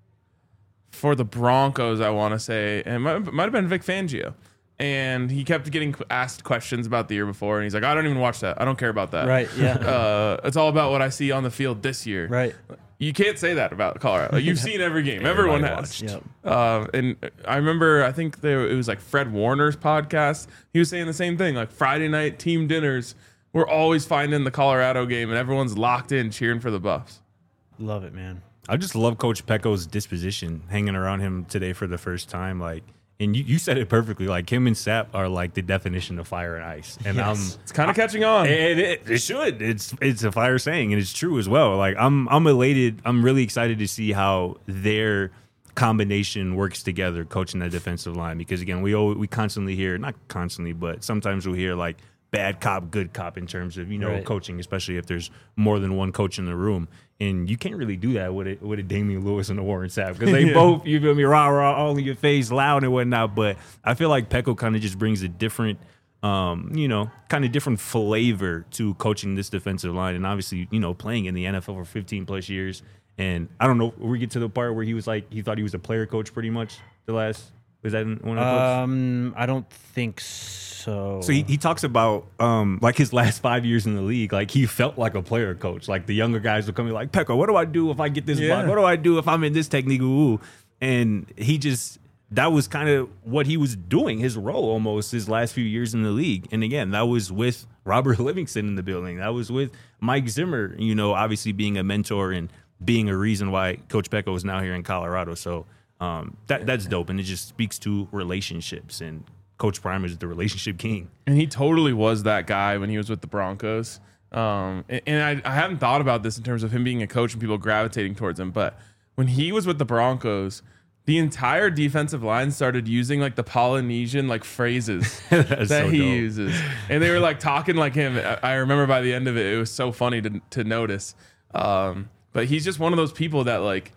B: for the Broncos, I want to say, and it might, might have been Vic Fangio. And he kept getting asked questions about the year before, and he's like, I don't even watch that. I don't care about that.
A: Right, yeah.
B: Uh, it's all about what I see on the field this year.
A: Right.
B: You can't say that about Colorado. Like, you've seen every game. Everyone has.
A: Yep.
B: Uh, and I remember, I think there, it was like Fred Warner's podcast. He was saying the same thing. Like Friday night team dinners, we're always finding the Colorado game, and everyone's locked in cheering for the Buffs.
A: Love it, man.
C: I just love Coach Peko's disposition, hanging around him today for the first time. Like, and you, you said it perfectly. Like, him and Sap are like the definition of fire and ice. And
A: Yes.
C: I'm
B: It's kind of catching on.
C: It, it, it should. It's it's a fire saying, and it's true as well. Like, I'm I'm elated. I'm really excited to see how their combination works together, coaching that defensive line. Because again, we always, we constantly hear, not constantly, but sometimes we'll hear like bad cop, good cop in terms of, you know,
A: Right.
C: coaching, especially if there's more than one coach in the room. And you can't really do that with it with a Damian Lewis and a Warren Sapp, because they
B: Yeah.
C: both, you feel me, rah rah, all in your face, loud and whatnot. But I feel like Peko kind of just brings a different, um, you know, kind of different flavor to coaching this defensive line, and obviously, you know, playing in the N F L for fifteen plus years. And I don't know, we get to the part where he was like, he thought he was a player coach pretty much the last. Was that in one of the clips?
A: Um, I don't think so.
C: So he, he talks about um, like his last five years in the league, like he felt like a player coach. Like the younger guys would come in like, Peko, what do I do if I get this
B: Yeah.
C: block? What do I do if I'm in this technique? Ooh. And he just, that was kind of what he was doing, his role almost his last few years in the league. And again, that was with Robert Livingston in the building. That was with Mike Zimmer, you know, obviously being a mentor and being a reason why Coach Peko is now here in Colorado. So um, that that's dope. And it just speaks to relationships, and Coach Prime is the relationship king.
B: And he totally was that guy when he was with the Broncos. Um, and and I, I hadn't thought about this in terms of him being a coach and people gravitating towards him. But when he was with the Broncos, the entire defensive line started using like the Polynesian like phrases that
C: so
B: he
C: dope.
B: uses. And they were like talking like him. I, I remember by the end of it, it was so funny to, to notice. Um, but he's just one of those people that like,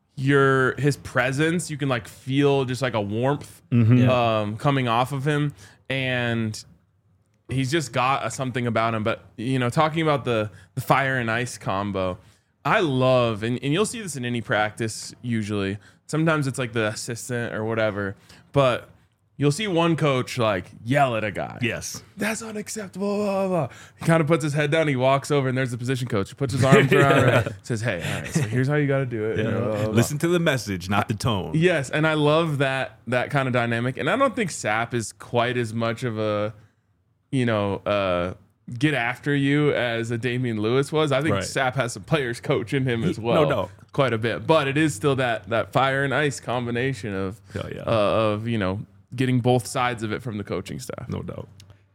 B: your his presence, you can like feel just like a warmth
A: Yeah.
B: um coming off of him, and he's just got a, something about him. But you know, talking about the the fire and ice combo, I love, and, and you'll see this in any practice usually. Sometimes it's like the assistant or whatever, but you'll see one coach like yell at a guy.
C: Yes.
B: That's unacceptable. Blah, blah, blah. He kind of puts his head down. He walks over, and there's the position coach. He puts his arms around her, says, "Hey, all right, so here's how you got to do it." You know, blah, blah, blah.
C: Listen to the message, not the tone.
B: Yes, and I love that that kind of dynamic. And I don't think Sapp is quite as much of a, you know, uh, get after you as a Damian Lewis was. I think
C: Right.
B: Sapp has some players coach in him as well.
C: No doubt.
B: Quite a bit. But it is still that that fire and ice combination of
C: Hell yeah.
B: uh, of, you know, getting both sides of it from the coaching staff.
C: No doubt.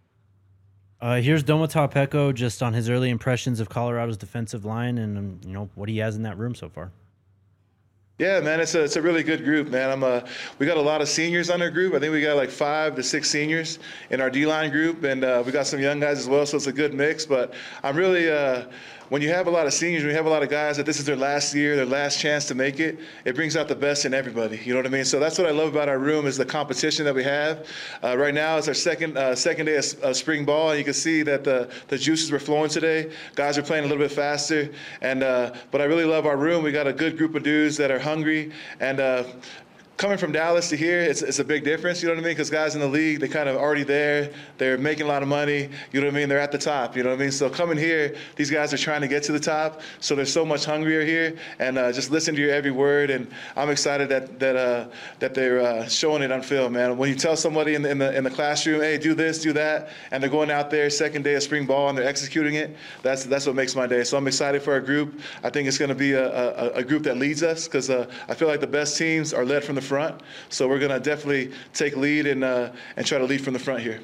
A: Uh, here's Domata Peko just on his early impressions of Colorado's defensive line and um, you know what he has in that room so far.
E: Yeah, man, it's a it's a really good group, man. I'm a we got a lot of seniors on our group. I think we got like five to six seniors in our D-line group, and uh, we got some young guys as well. So it's a good mix. But I'm really uh, when you have a lot of seniors, when you have a lot of guys that this is their last year, their last chance to make it, it brings out the best in everybody. You know what I mean? So that's what I love about our room is the competition that we have. Uh, right now, it's our second uh, second day of, of spring ball, and you can see that the the juices were flowing today. Guys are playing a little bit faster, and uh, but I really love our room. We got a good group of dudes that are hungry, and uh, coming from Dallas to here, it's, it's a big difference, you know what I mean? Because guys in the league, they kind of already there. They're making a lot of money, you know what I mean? They're at the top, you know what I mean? So coming here, these guys are trying to get to the top, so they're so much hungrier here, and uh, just listen to your every word, and I'm excited that that uh, that they're uh, showing it on film, man. When you tell somebody in the, in the in the classroom, hey, do this, do that, and they're going out there second day of spring ball and they're executing it, that's that's what makes my day. So I'm excited for our group. I think it's going to be a, a, a group that leads us, because uh, I feel like the best teams are led from the front. So we're going to definitely take lead and uh, and try to lead from the front here.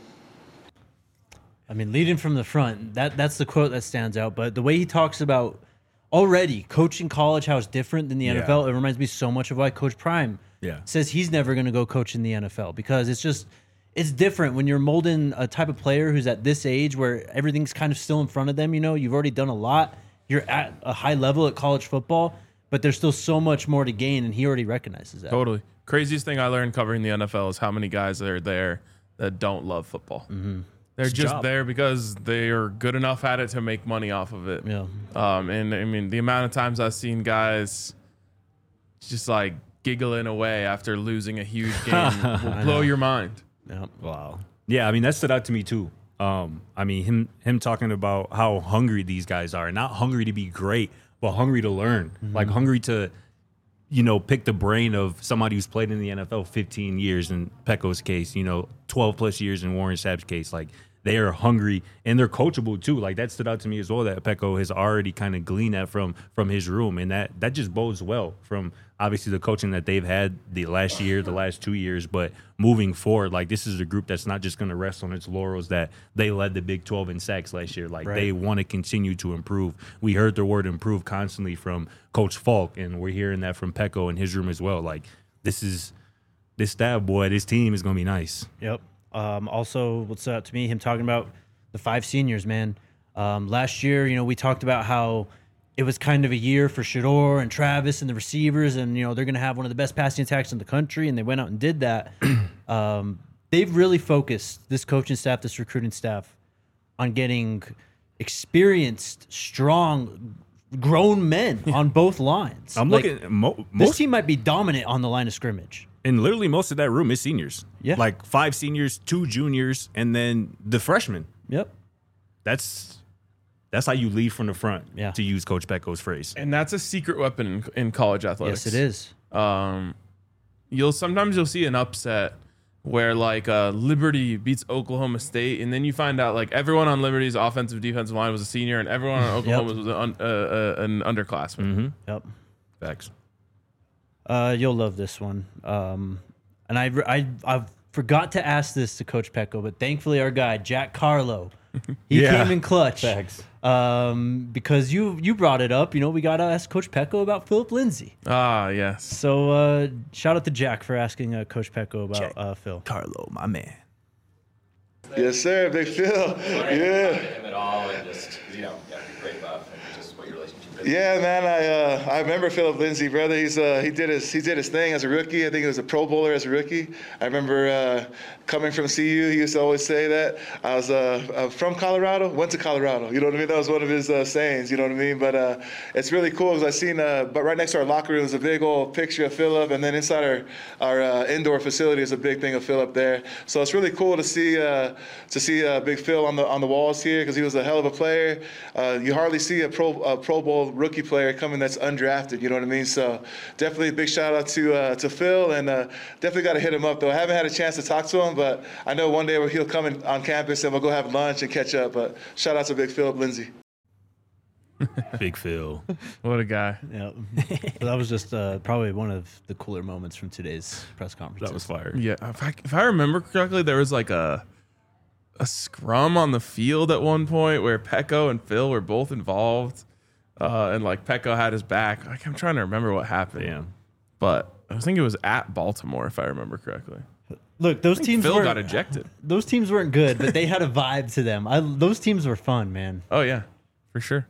A: I mean, leading from the front, that that's the quote that stands out. But the way he talks about already coaching college, how it's different than the
C: Yeah.
A: N F L, it reminds me so much of why Coach Prime
C: Yeah.
A: says he's never going to go coach in the N F L, because it's just, it's different when you're molding a type of player who's at this age where everything's kind of still in front of them. You know, you've already done a lot. You're at a high level at college football, but there's still so much more to gain, and he already recognizes that.
B: Totally. Craziest thing I learned covering the N F L is how many guys are there that don't love football.
A: Mm-hmm.
B: They're
C: It's a
B: just
C: job.
B: there because they are good enough at it to make money off of it.
A: Yeah.
B: Um, and I mean, the amount of times I've seen guys just like giggling away after losing a huge game will blow your mind.
A: Yeah.
C: Wow. Yeah, I mean that stood out to me too. Um, I mean him him talking about how hungry these guys are, not hungry to be great, but hungry to learn, like hungry to, you know, pick the brain of somebody who's played in the N F L fifteen years in Pecco's case, you know, twelve plus years in Warren Sapp's case. Like they are hungry and they're coachable too. Like that stood out to me as well, that Pecco has already kind of gleaned that from from his room, and that that just bodes well from obviously the coaching that they've had the last year, the last two years, but moving forward, like this is a group that's not just going to rest on its laurels that they led the Big twelve in sacks last year. Like
A: Right.
C: they want to continue to improve. We heard the word improve constantly from Coach Falk, and we're hearing that from Pecco in his room as well. Like this is this staff, boy, this team is going to be nice.
A: Yep. Um, also, what stood out to me, him talking about the five seniors, man. Um, last year, you know, we talked about how it was kind of a year for Shador and Travis and the receivers, and, you know, they're going to have one of the best passing attacks in the country, and they went out and did that. um, they've really focused, this coaching staff, this recruiting staff, on getting experienced, strong, grown men on both lines.
C: I'm
A: Like,
C: looking mo-
A: This
C: most
A: team might be dominant on the line of scrimmage.
C: and literally most of that room is seniors.
A: Yeah.
C: Like five seniors, two juniors, and then the freshmen.
A: Yep.
C: That's that's how you lead from the front,
A: Yeah.
C: to use Coach Pecco's phrase.
B: And that's a secret weapon in, in college athletics.
A: Yes, it is.
B: Um, you'll sometimes you'll see an upset where like uh, Liberty beats Oklahoma State, and then you find out like everyone on Liberty's offensive defensive line was a senior, and everyone on Oklahoma was an, un, uh, uh, an underclassman.
C: Mm-hmm.
A: Yep.
C: Facts.
A: Uh, you'll love this one. Um, and I, I, I forgot to ask this to Coach Pecco, but thankfully our guy Jack Carlo, he
C: Yeah.
A: came in clutch.
C: Facts.
A: Um, because you you brought it up. You know, we gotta ask Coach Pecco about Philip Lindsay.
B: Ah, yes.
A: So uh, shout out to Jack for asking uh, Coach Pecco about
C: Jack.
A: uh, Phil.
C: Carlo, my man.
E: Yes, sir. Big Phil. Yeah.
G: Him at all, and just you know, yeah, great buff, and just what your relationship is.
E: Yeah, man. I uh, I remember Philip Lindsay, brother. He's uh, he did his he did his thing as a rookie. I think he was a Pro Bowler as a rookie. I remember uh, coming from C U. He used to always say that I was uh, uh, from Colorado, went to Colorado. You know what I mean? That was one of his uh, sayings. You know what I mean? But uh, it's really cool because I seen. Uh, but right next to our locker room is a big old picture of Philip, and then inside our our uh, indoor facility is a big thing of Philip there. So it's really cool to see uh, to see uh, Big Phil on the on the walls here because he was a hell of a player. Uh, you hardly see a Pro a Pro Bowl rookie player coming that's undrafted. You know what I mean? So definitely a big shout out to uh, to Phil, and uh, definitely got to hit him up though. I haven't had a chance to talk to him, but I know one day where he'll come in, on campus and we'll go have lunch and catch up. But shout out to Big Philip Lindsay.
C: Big Phil.
B: What a guy.
A: Yeah, that was just uh, probably one of the cooler moments from today's press conference.
C: That was fire.
B: Yeah, if I, if I remember correctly, there was like a a scrum on the field at one point where Pecco and Phil were both involved, uh, and like Pecco had his back. Like I'm trying to remember what happened.
C: Yeah.
B: but I think it was at Baltimore, if I remember correctly.
A: Look, those teams
B: Phil
A: weren't,
B: got ejected.
A: Those teams weren't good, but they had a vibe to them. I, those teams were fun, man.
B: Oh, yeah, for sure.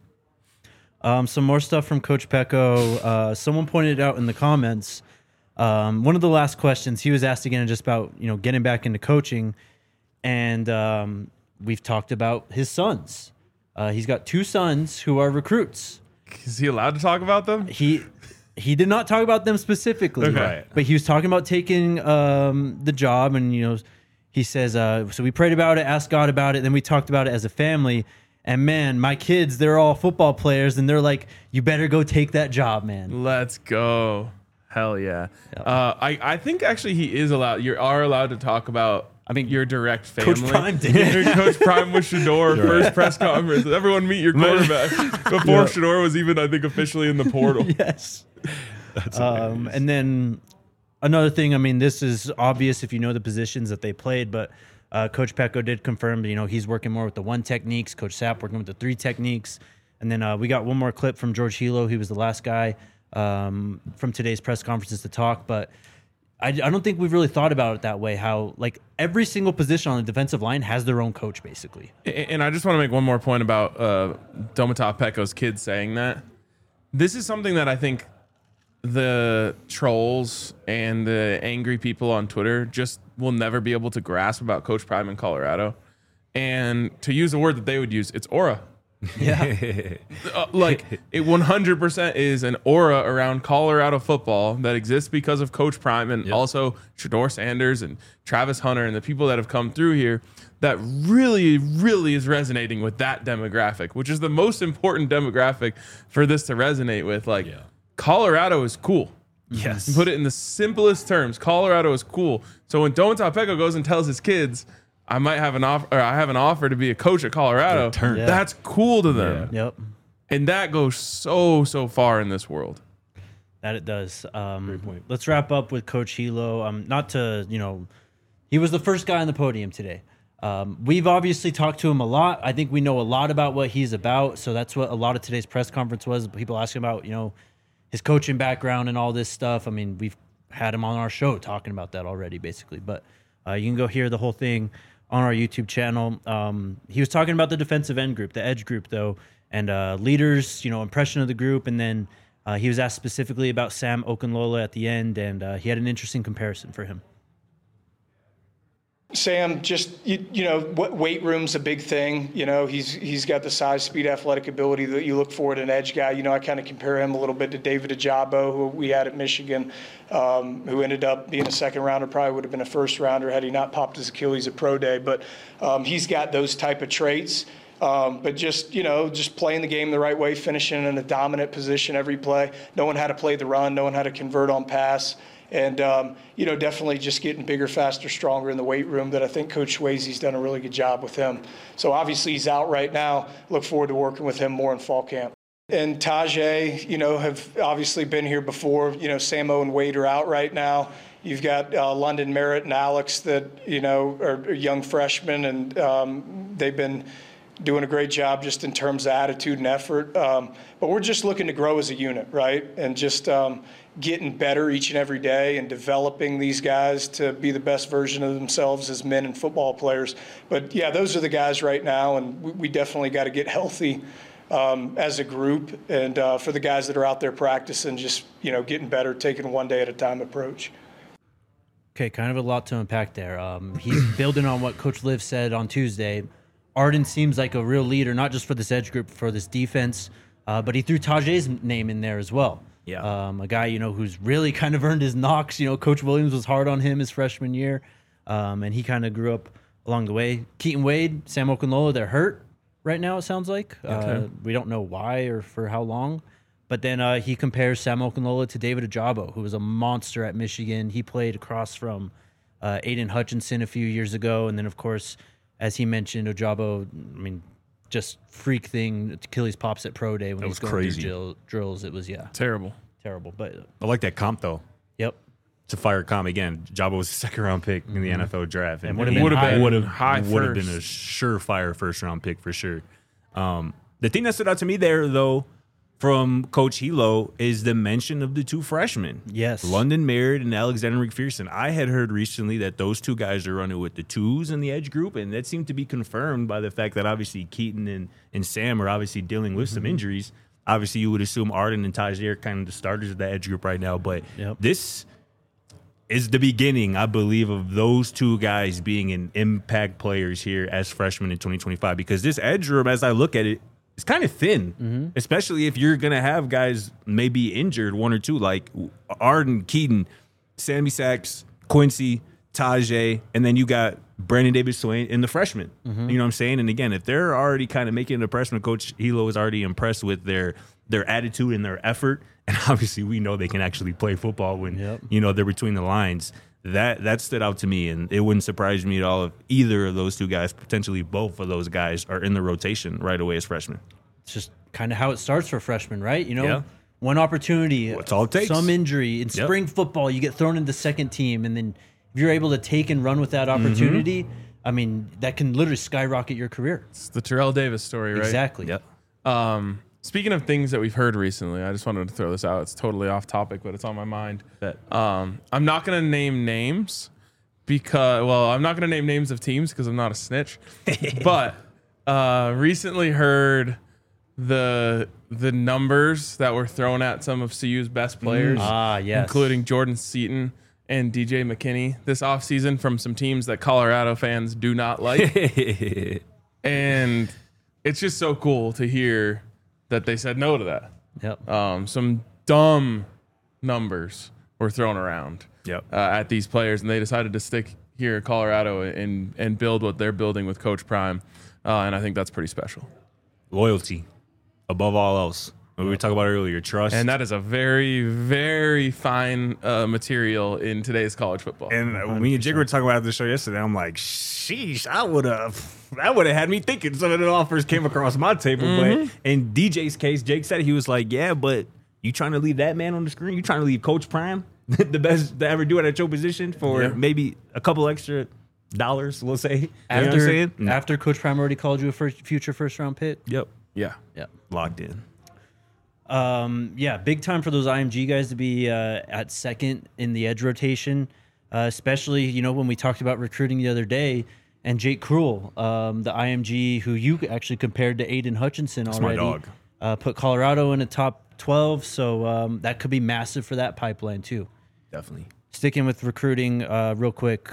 A: Um, some more stuff from Coach Pecco. Uh, someone pointed out in the comments, um, one of the last questions, he was asked again just about, you know, getting back into coaching. And um, we've talked about his sons. Uh, he's got two sons who are recruits.
B: Is he allowed to talk about them?
A: He he did not talk about them specifically,
B: Okay.
C: Right.
A: but he was talking about taking um, the job. And, you know, he says, uh, so we prayed about it, asked God about it. Then we talked about it as a family. And man, my kids, they're all football players, and they're like, "You better go take that job, man."
B: Let's go. Hell yeah. Uh, I, I think actually he is allowed. You are allowed to talk about I mean, your direct family.
A: Coach Prime did.
B: Coach Prime with Shador, first press conference. Everyone meet your quarterback. Before
A: Yeah.
B: Shador was even, I think, officially in the portal.
A: Yes. That's um, and then another thing, I mean, this is obvious if you know the positions that they played, but uh, Coach Pecco did confirm, you know, he's working more with the one techniques. Coach Sapp working with the three techniques. And then uh, we got one more clip from George Hilo. He was the last guy um, from today's press conferences to talk, but I, I don't think we've really thought about it that way, how like every single position on the defensive line has their own coach, basically.
B: And I just want to make one more point about uh, Domata Pecco's kids saying that. This is something that I think the trolls and the angry people on Twitter just will never be able to grasp about Coach Prime in Colorado. And to use a word that they would use, it's aura.
A: Yeah.
B: uh, like it one hundred percent is an aura around Colorado football that exists because of Coach Prime and
C: Yep.
B: also Shador Sanders and Travis Hunter and the people that have come through here that really, really is resonating with that demographic, which is the most important demographic for this to resonate with. Like
C: Yeah.
B: Colorado is cool.
A: Yes.
B: Put it in the simplest terms. Colorado is cool. So when Domata Pecco goes and tells his kids, I might have an offer, or I have an offer to be a coach at Colorado.
C: turn.
A: Yeah.
B: That's cool to them.
A: Yep.
B: And that goes so, so far in this world.
A: That it does. Um,
C: Great point.
A: Let's wrap up with Coach Hilo. Um, not to, you know, he was the first guy on the podium today. Um, we've obviously talked to him a lot. I think we know a lot about what he's about. So that's what a lot of today's press conference was. People asking about, you know, his coaching background and all this stuff. I mean, we've had him on our show talking about that already, basically. But uh, you can go hear the whole thing on our YouTube channel. Um, he was talking about the defensive end group, the edge group, though, and uh, leaders, you know, impression of the group. And then uh, he was asked specifically about Sam Okunlola at the end, and uh, he had an interesting comparison for him.
H: Sam, just you, you know, what weight room's a big thing. You know, he's he's got the size, speed, athletic ability that you look for in an edge guy. You know, I kind of compare him a little bit to David Ajabo, who we had at Michigan, um, who ended up being a second rounder. Probably would have been a first rounder had he not popped his Achilles at pro day. But um, he's got those type of traits. Um, but just, you know, just playing the game the right way, finishing in a dominant position every play, knowing how to play the run, knowing how to convert on pass. And, um, you know, definitely just getting bigger, faster, stronger in the weight room that I think Coach Swayze's done a really good job with him. So obviously he's out right now. Look forward to working with him more in fall camp. And Tajay, you know, have obviously been here before. You know, Samo and Wade are out right now. You've got uh, London Merritt and Alex that, you know, are, are young freshmen, and um, they've been doing a great job just in terms of attitude and effort. Um, but we're just looking to grow as a unit, right? And just um, getting better each and every day and developing these guys to be the best version of themselves as men and football players. But yeah, those are the guys right now, and we, we definitely got to get healthy um, as a group. And uh, for the guys that are out there practicing, just, you know, getting better, taking one day at a time approach.
A: Okay, kind of a lot to unpack there. Um, he's building on what Coach Liv said on Tuesday. Arden seems like a real leader, not just for this edge group, for this defense, uh, but he threw Tajay's name in there as well.
C: Yeah.
A: Um, a guy, you know, who's really kind of earned his knocks. You know, Coach Williams was hard on him his freshman year, um, and he kind of grew up along the way. Keaton Wade, Sam Okunlola, they're hurt right now, it sounds like. Uh, we don't know why or for how long. But then uh, he compares Sam Okunlola to David Ajabo, who was a monster at Michigan. He played across from uh, Aiden Hutchinson a few years ago. And then, of course, as he mentioned, Ajabo, I mean, just freak thing. Achilles pops at pro day when
C: That
A: he
C: was
A: going
C: crazy.
A: through drill, drills. It was, yeah,
B: Terrible.
A: terrible. But, uh,
C: I like that comp though.
A: yep.
C: It's a fire comp again. Jabo was a second round pick in the N F L draft,
A: And would've been
B: Would've
A: high.
B: been
C: would have
B: high
C: would have been
B: first.
C: a surefire first round pick for sure. Um, the thing that stood out to me there though from Coach Hilo is the mention of the two freshmen.
A: Yes.
C: London Merritt and Alexander McPherson. I had heard recently that those two guys are running with the twos in the edge group, and that seemed to be confirmed by the fact that obviously Keaton and, and Sam are obviously dealing with mm-hmm. some injuries. Obviously, you would assume Arden and Tajay are kind of the starters of the edge group right now, but
A: yep.
C: this is the beginning, I believe, of those two guys being an impact players here as freshmen in twenty twenty-five, because this edge room, as I look at it, it's kind of thin, mm-hmm. especially if you're going to have guys maybe injured, one or two, like Arden, Keaton, Sammy Sachs, Quincy, Tajay, and then you got Brandon Davis Swain and the freshmen. Mm-hmm. You know what I'm saying? And again, if they're already kind of making an impression, Coach Hilo is already impressed with their their attitude and their effort, and obviously we know they can actually play football when
A: yep.
C: you know they're between the lines. That that stood out to me, and it wouldn't surprise me at all if either of those two guys, potentially both of those guys, are in the rotation right away as freshmen.
A: It's just kind of how it starts for freshmen, right? You know,
C: yeah.
A: one opportunity,
C: That's all it takes.
A: Some injury. In
C: yep.
A: spring football, you get thrown into the second team, and then if you're able to take and run with that opportunity, mm-hmm. I mean, that can literally skyrocket your career.
B: It's the Terrell Davis story, right?
A: Exactly.
C: Yep.
B: Um, speaking of things that we've heard recently, I just wanted to throw this out. It's totally off topic, but it's on my mind. Um, I'm not going to name names. Because, well, I'm not going to name names of teams because I'm not a snitch. But uh, recently heard the the numbers that were thrown at some of C U's best players.
A: Mm. Ah, yes.
B: Including Jordan Seaton and D J McKinney this offseason from some teams that Colorado fans do not like. And it's just so cool to hear that they said no to that.
A: Yep.
B: Um, some dumb numbers were thrown around.
C: Yep.
B: Uh, at these players, and they decided to stick here in Colorado and and build what they're building with Coach Prime, uh, and I think that's pretty special.
C: Loyalty, above all else. What we were talking about earlier, trust,
B: and that is a very, very fine uh, material in today's college football.
C: And uh, me and Jig were talking about the show yesterday. I'm like, sheesh, I would have, that would have had me thinking some of the offers came across my table.
B: Mm-hmm.
C: But in D J's case, Jake said, he was like, yeah, but you trying to leave that man on the screen? You trying to leave Coach Prime? The best to ever do it at your position for
B: yeah.
C: maybe a couple extra dollars, we'll say.
A: After,
C: you know what I'm saying? No.
A: after Coach Prime already called you a first, future first round pick?
C: Yep.
B: Yeah.
A: Yep.
C: Locked in.
A: Um, yeah, big time for those I M G guys to be uh, at second in the edge rotation, uh, especially, you know, when we talked about recruiting the other day, and Jake Cruel, um, the I M G who you actually compared to Aiden Hutchinson
C: That's
A: already.
C: my dog.
A: Uh, put Colorado in the top twelve, so um, that could be massive for that pipeline too.
C: Definitely.
A: Sticking with recruiting, uh, real quick,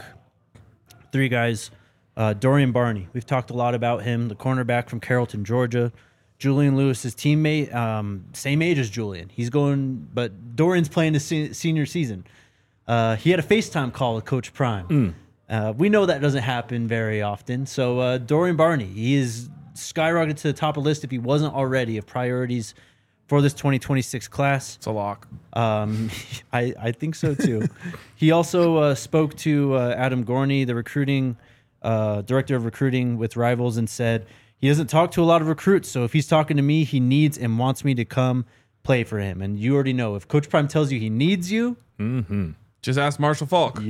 A: three guys. Uh, Dorian Barney, we've talked a lot about him, the cornerback from Carrollton, Georgia. Julian Lewis's teammate, um, same age as Julian. He's going, but Dorian's playing his se- senior season. Uh, he had a FaceTime call with Coach Prime.
C: Mm.
A: Uh, we know that doesn't happen very often. So uh, Dorian Barney, he is skyrocketed to the top of the list if he wasn't already of priorities for this twenty twenty-six class.
B: It's a lock.
A: Um, I, I think so too. He also uh, spoke to uh, Adam Gorney, the recruiting uh, director of recruiting with Rivals, and said he doesn't talk to a lot of recruits. So if he's talking to me, he needs and wants me to come play for him. And you already know, if Coach Prime tells you he needs you,
C: mm-hmm.
B: just ask Marshall Falk.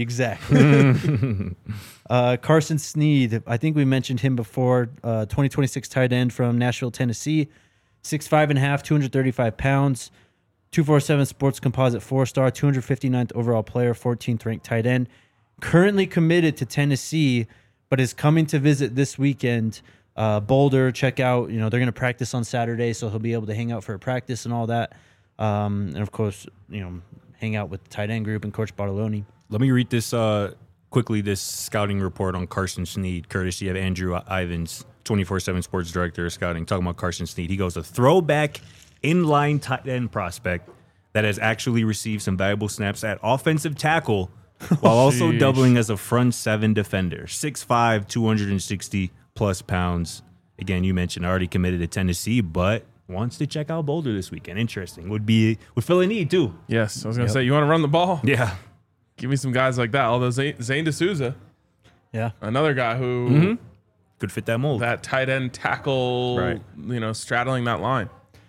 A: Exactly. uh, Carson Sneed, I think we mentioned him before. Uh, twenty twenty-six tight end from Nashville, Tennessee. Six five and a half, two hundred thirty-five pounds, two forty-seven Sports Composite four star, two hundred fifty-ninth overall player, fourteenth ranked tight end. Currently committed to Tennessee, but is coming to visit this weekend. Uh, Boulder, check out. You know they're going to practice on Saturday, so he'll be able to hang out for a practice and all that. Um, and of course, you know, hang out with the tight end group and Coach Bartoloni.
C: Let me read this uh, quickly. This scouting report on Carson Sneed, courtesy of Andrew Ivins, twenty-four seven Sports Director of Scouting, talking about Carson Sneed. He goes, a throwback inline tight end prospect that has actually received some valuable snaps at offensive tackle while also
B: Sheesh.
C: doubling as a front seven defender. six five, two hundred sixty plus pounds. Again, you mentioned already committed to Tennessee, but wants to check out Boulder this weekend. Interesting. Would be would fill a need too.
B: Yes, I was going to
C: Yep.
B: say, you want to run the ball?
C: Yeah.
B: Give me some guys like that. Although Zane, Zane D'Souza,
A: Yeah.
B: another guy who
C: Mm-hmm. Could fit that mold.
B: that tight end tackle,
C: Right.
B: you know, straddling that line.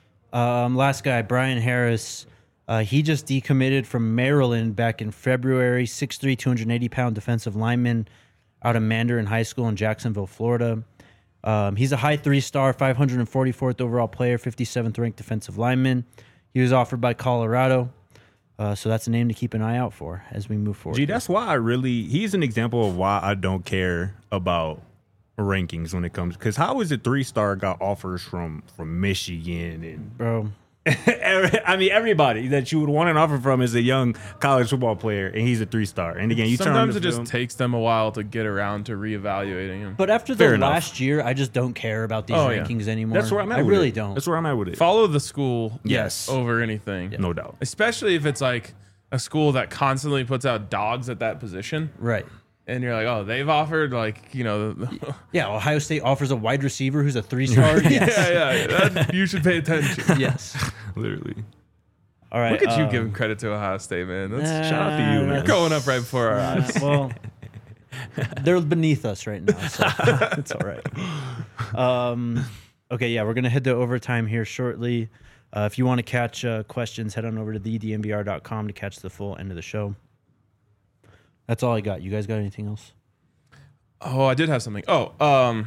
A: Um, last guy, Brian Harris. Uh, he just decommitted from Maryland back in February. six three, two hundred eighty pound defensive lineman out of Mandarin High School in Jacksonville, Florida. Um, he's a high three-star, five hundred forty-fourth overall player, fifty-seventh ranked defensive lineman. He was offered by Colorado. Uh, so that's a name to keep an eye out for as we move forward.
C: Gee, that's why I really, he's an example of why I don't care about rankings when it comes, because how is a three-star got offers from, from Michigan and
A: Bro.
C: I mean, everybody that you would want an offer from is a young college football player, and he's a three-star. And again, you turn on
B: Sometimes
C: the
B: it just
C: film-
B: takes them a while to get around to reevaluating him.
A: But after the
C: Fair enough.
A: last year, I just don't care about these
B: Oh, yeah.
A: rankings anymore.
C: That's where I'm at.
A: I
C: with
A: really
C: it.
A: don't.
C: That's where I'm at with it.
B: Follow the school
C: Yes.
B: over anything.
C: No doubt.
B: Especially if it's like a school that constantly puts out dogs at that position.
A: Right.
B: And you're like, oh, they've offered like, you know,
A: Yeah, Ohio State offers a wide receiver who's a three-star. Yes.
B: yeah, yeah, that, you should pay attention.
A: Yes.
C: Literally.
A: All right.
B: Look at you
A: um,
B: giving credit to Ohio State, man. That's
A: uh,
C: Shout out to you, man.
A: that's-
B: going up right before our
A: uh,
B: eyes.
A: well, they're beneath us right now, so it's all right. Um, okay, yeah, we're gonna head to overtime here shortly. Uh, if you want to catch uh, questions, head on over to the d n b r dot com to catch the full end of the show. That's all I got. You guys got anything else?
B: Oh, I did have something. Oh, um,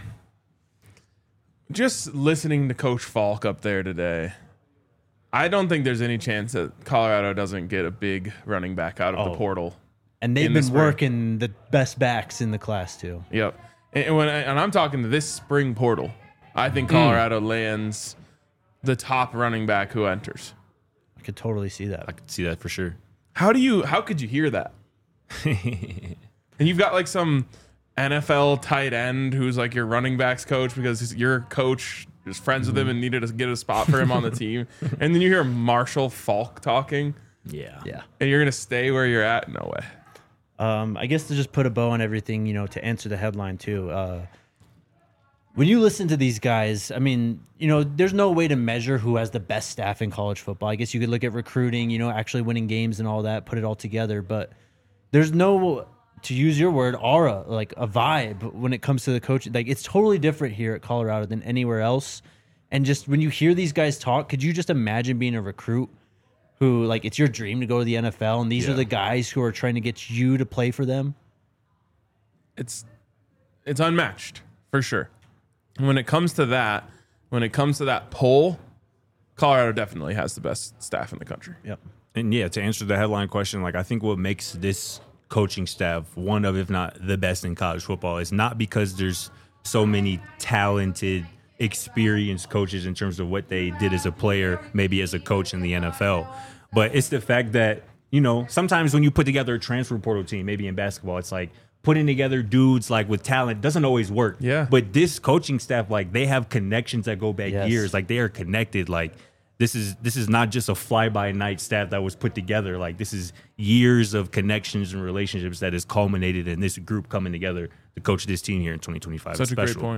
B: just listening to Coach Falk up there today. I don't think there's any chance that Colorado doesn't get a big running back out of
A: Oh.
B: the portal.
A: And they've
B: In the
A: been
B: spring.
A: working the best backs in the class too.
B: Yep. And, and when I, and I'm talking to this spring portal, I think Colorado lands the top running back who enters.
A: I could totally see that.
C: I could see that for sure.
B: How do you? How could you hear that? And you've got like some N F L tight end who's like your running backs coach because he's, your coach is friends with him and needed to get a spot for him on the team. And then you hear Marshall Falk talking,
C: Yeah.
A: Yeah.
B: and you're gonna stay where you're at? No way.
A: Um, I guess to just put a bow on everything, you know, to answer the headline too. Uh, when you listen to these guys, I mean, you know, there's no way to measure who has the best staff in college football. I guess you could look at recruiting, you know, actually winning games and all that, put it all together. But there's no, to use your word, aura, like a vibe when it comes to the coach. Like it's totally different here at Colorado than anywhere else. And just when you hear these guys talk, could you just imagine being a recruit who, like, it's your dream to go to the N F L, and these
C: Yeah.
A: are the guys who are trying to get you to play for them?
B: It's it's unmatched for sure. When it comes to that, when it comes to that poll, Colorado definitely has the best staff in the country.
A: Yep.
C: And yeah, to answer the headline question, like I think what makes this coaching staff one of, if not the best in college football, is not because there's so many talented, experienced coaches in terms of what they did as a player, maybe as a coach in the N F L, but it's the fact that, you know, sometimes when you put together a transfer portal team, maybe in basketball, it's like putting together dudes like with talent doesn't always work.
B: Yeah.
C: But this coaching staff, like they have connections that go back
A: Yes.
C: years. Like they are connected. Like this is this is not just a fly by night staff that was put together. Like this is years of connections and relationships that has culminated in this group coming together to coach this team here in twenty twenty-five.
B: Such
C: It's
B: a great
C: special.
B: point.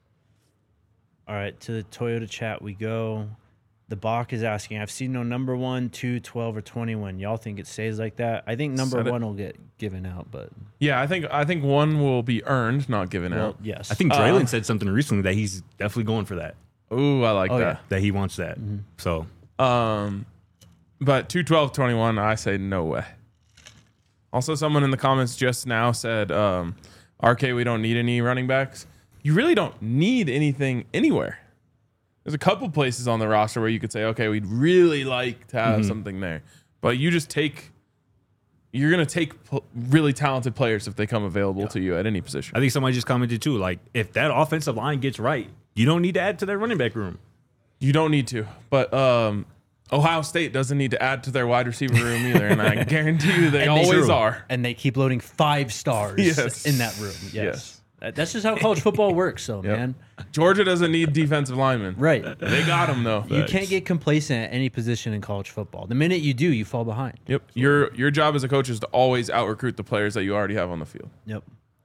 A: All right, to the Toyota chat we go. The Bach is asking, I've seen no number one, two, twelve, or twenty-one. Y'all think it stays like that? I think number
B: Said it.
A: one will get given out, but
B: Yeah, I think I think one will be earned, not given
A: well,
B: out.
A: yes.
C: I think
B: Uh,
C: Draylon said something recently that he's definitely going for that.
B: Ooh, I like
A: Oh,
B: that.
C: That he wants that. So
B: Um, but two twelve twenty-one, I say no way. Also, someone in the comments just now said, um, R K, we don't need any running backs. You really don't need anything anywhere. There's a couple places on the roster where you could say, okay, we'd really like to have something there. But you just take, you're going to take pl- really talented players if they come available to you at any position.
C: I think somebody just commented too, like if that offensive line gets right, you don't need to add to that running back room.
B: You don't need to. But um, Ohio State doesn't need to add to their wide receiver room either. And I guarantee you they
A: And they-
B: always
A: True.
B: are.
A: And they keep loading five stars
B: Yes.
A: in that room. Yes.
B: Yes.
A: That- That's just how college football works, so,
B: Yep.
A: man.
B: Georgia doesn't need defensive linemen.
A: Right.
B: They got them though.
A: You can't get complacent at any position in college football. The minute you do, you fall behind.
B: Yep. Your your job as a coach is to always out recruit the players that you already have on the field.
A: Yep.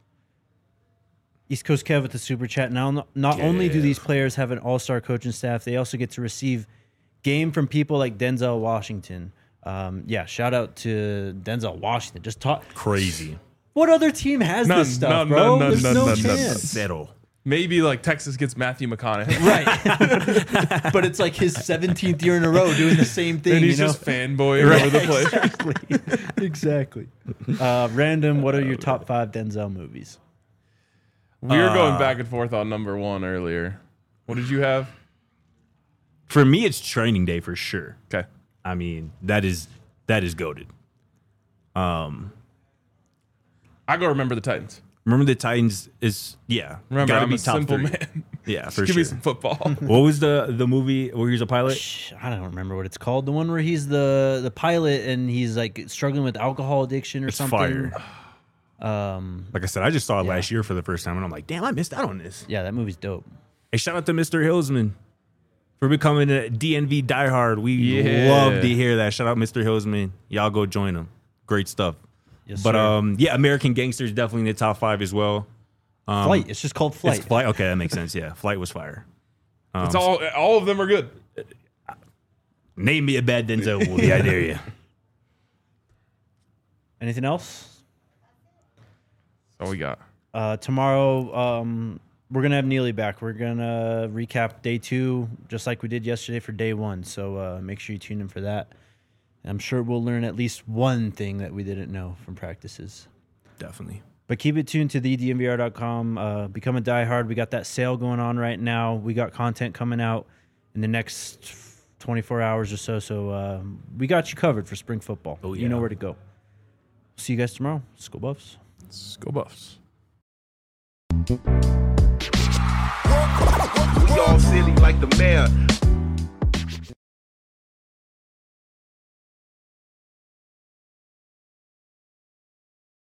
A: East Coast Kev with the super chat. Now, not only do these players have an all-star coaching staff, they also get to receive game from people like Denzel Washington. Um, yeah, shout out to Denzel Washington. Just talk.
C: Crazy.
A: What other team has
B: None,
A: this stuff,
B: none,
A: bro?
B: none, none,
A: There's
B: none,
A: no
B: none, none,
A: chance.
C: Settle.
B: Maybe like Texas gets Matthew McConaughey.
A: Right. But it's like his seventeenth year in a row doing the same thing.
B: And he's
A: you know?
B: just fanboying over the place.
A: Exactly. exactly. Uh, random, what are your top five Denzel movies?
B: We were going
C: Uh,
B: back and forth on number one earlier. What did you have?
C: For me, it's training day for sure.
B: Okay.
C: I mean, that is that is goated. Um,
B: I go remember the Titans.
C: remember the Titans is yeah.
B: Remember,
C: gotta
B: I'm
C: be
B: a
C: top
B: simple
C: three.
B: man.
C: Yeah, for
B: Give
C: sure.
B: me some football.
C: What was the the movie where he's a pilot?
A: Shh, I don't remember what it's called. The one where he's the the pilot and he's like struggling with alcohol addiction or
C: It's
A: something.
C: fire.
A: Um,
C: Like I said, I just saw it
A: Yeah.
C: last year for the first time, and I'm like, damn, I missed out on this.
A: yeah, that movie's dope.
C: Hey, shout out to Mister Hillsman for becoming a D N V diehard. We
B: Yeah.
C: love to hear that. Shout out Mister Hillsman. Y'all go join him. Great stuff.
A: Yes,
C: but
A: sir.
C: um, yeah, American Gangster is definitely in the top five as well. Um,
A: Flight. It's just called Flight.
C: It's Flight. Okay, that makes sense. Yeah, Flight was fire. Um,
B: It's all all of them are good.
C: Name me a bad Denzel movie. I dare you.
A: Anything else?
B: That's all we got.
A: Uh, tomorrow, um, we're gonna have Neely back. We're gonna recap day two, just like we did yesterday for day one. So uh, make sure you tune in for that. And I'm sure we'll learn at least one thing that we didn't know from practices.
C: Definitely.
A: But keep it tuned to the D N V R dot com. Uh, become a diehard. We got that sale going on right now. We got content coming out in the next twenty-four hours or so. So um, we got you covered for spring football.
C: Oh,
A: You
C: yeah.
A: know where to go. See you guys tomorrow. Let's go Buffs.
B: Let's go Buffs.
I: We all silly like the mayor.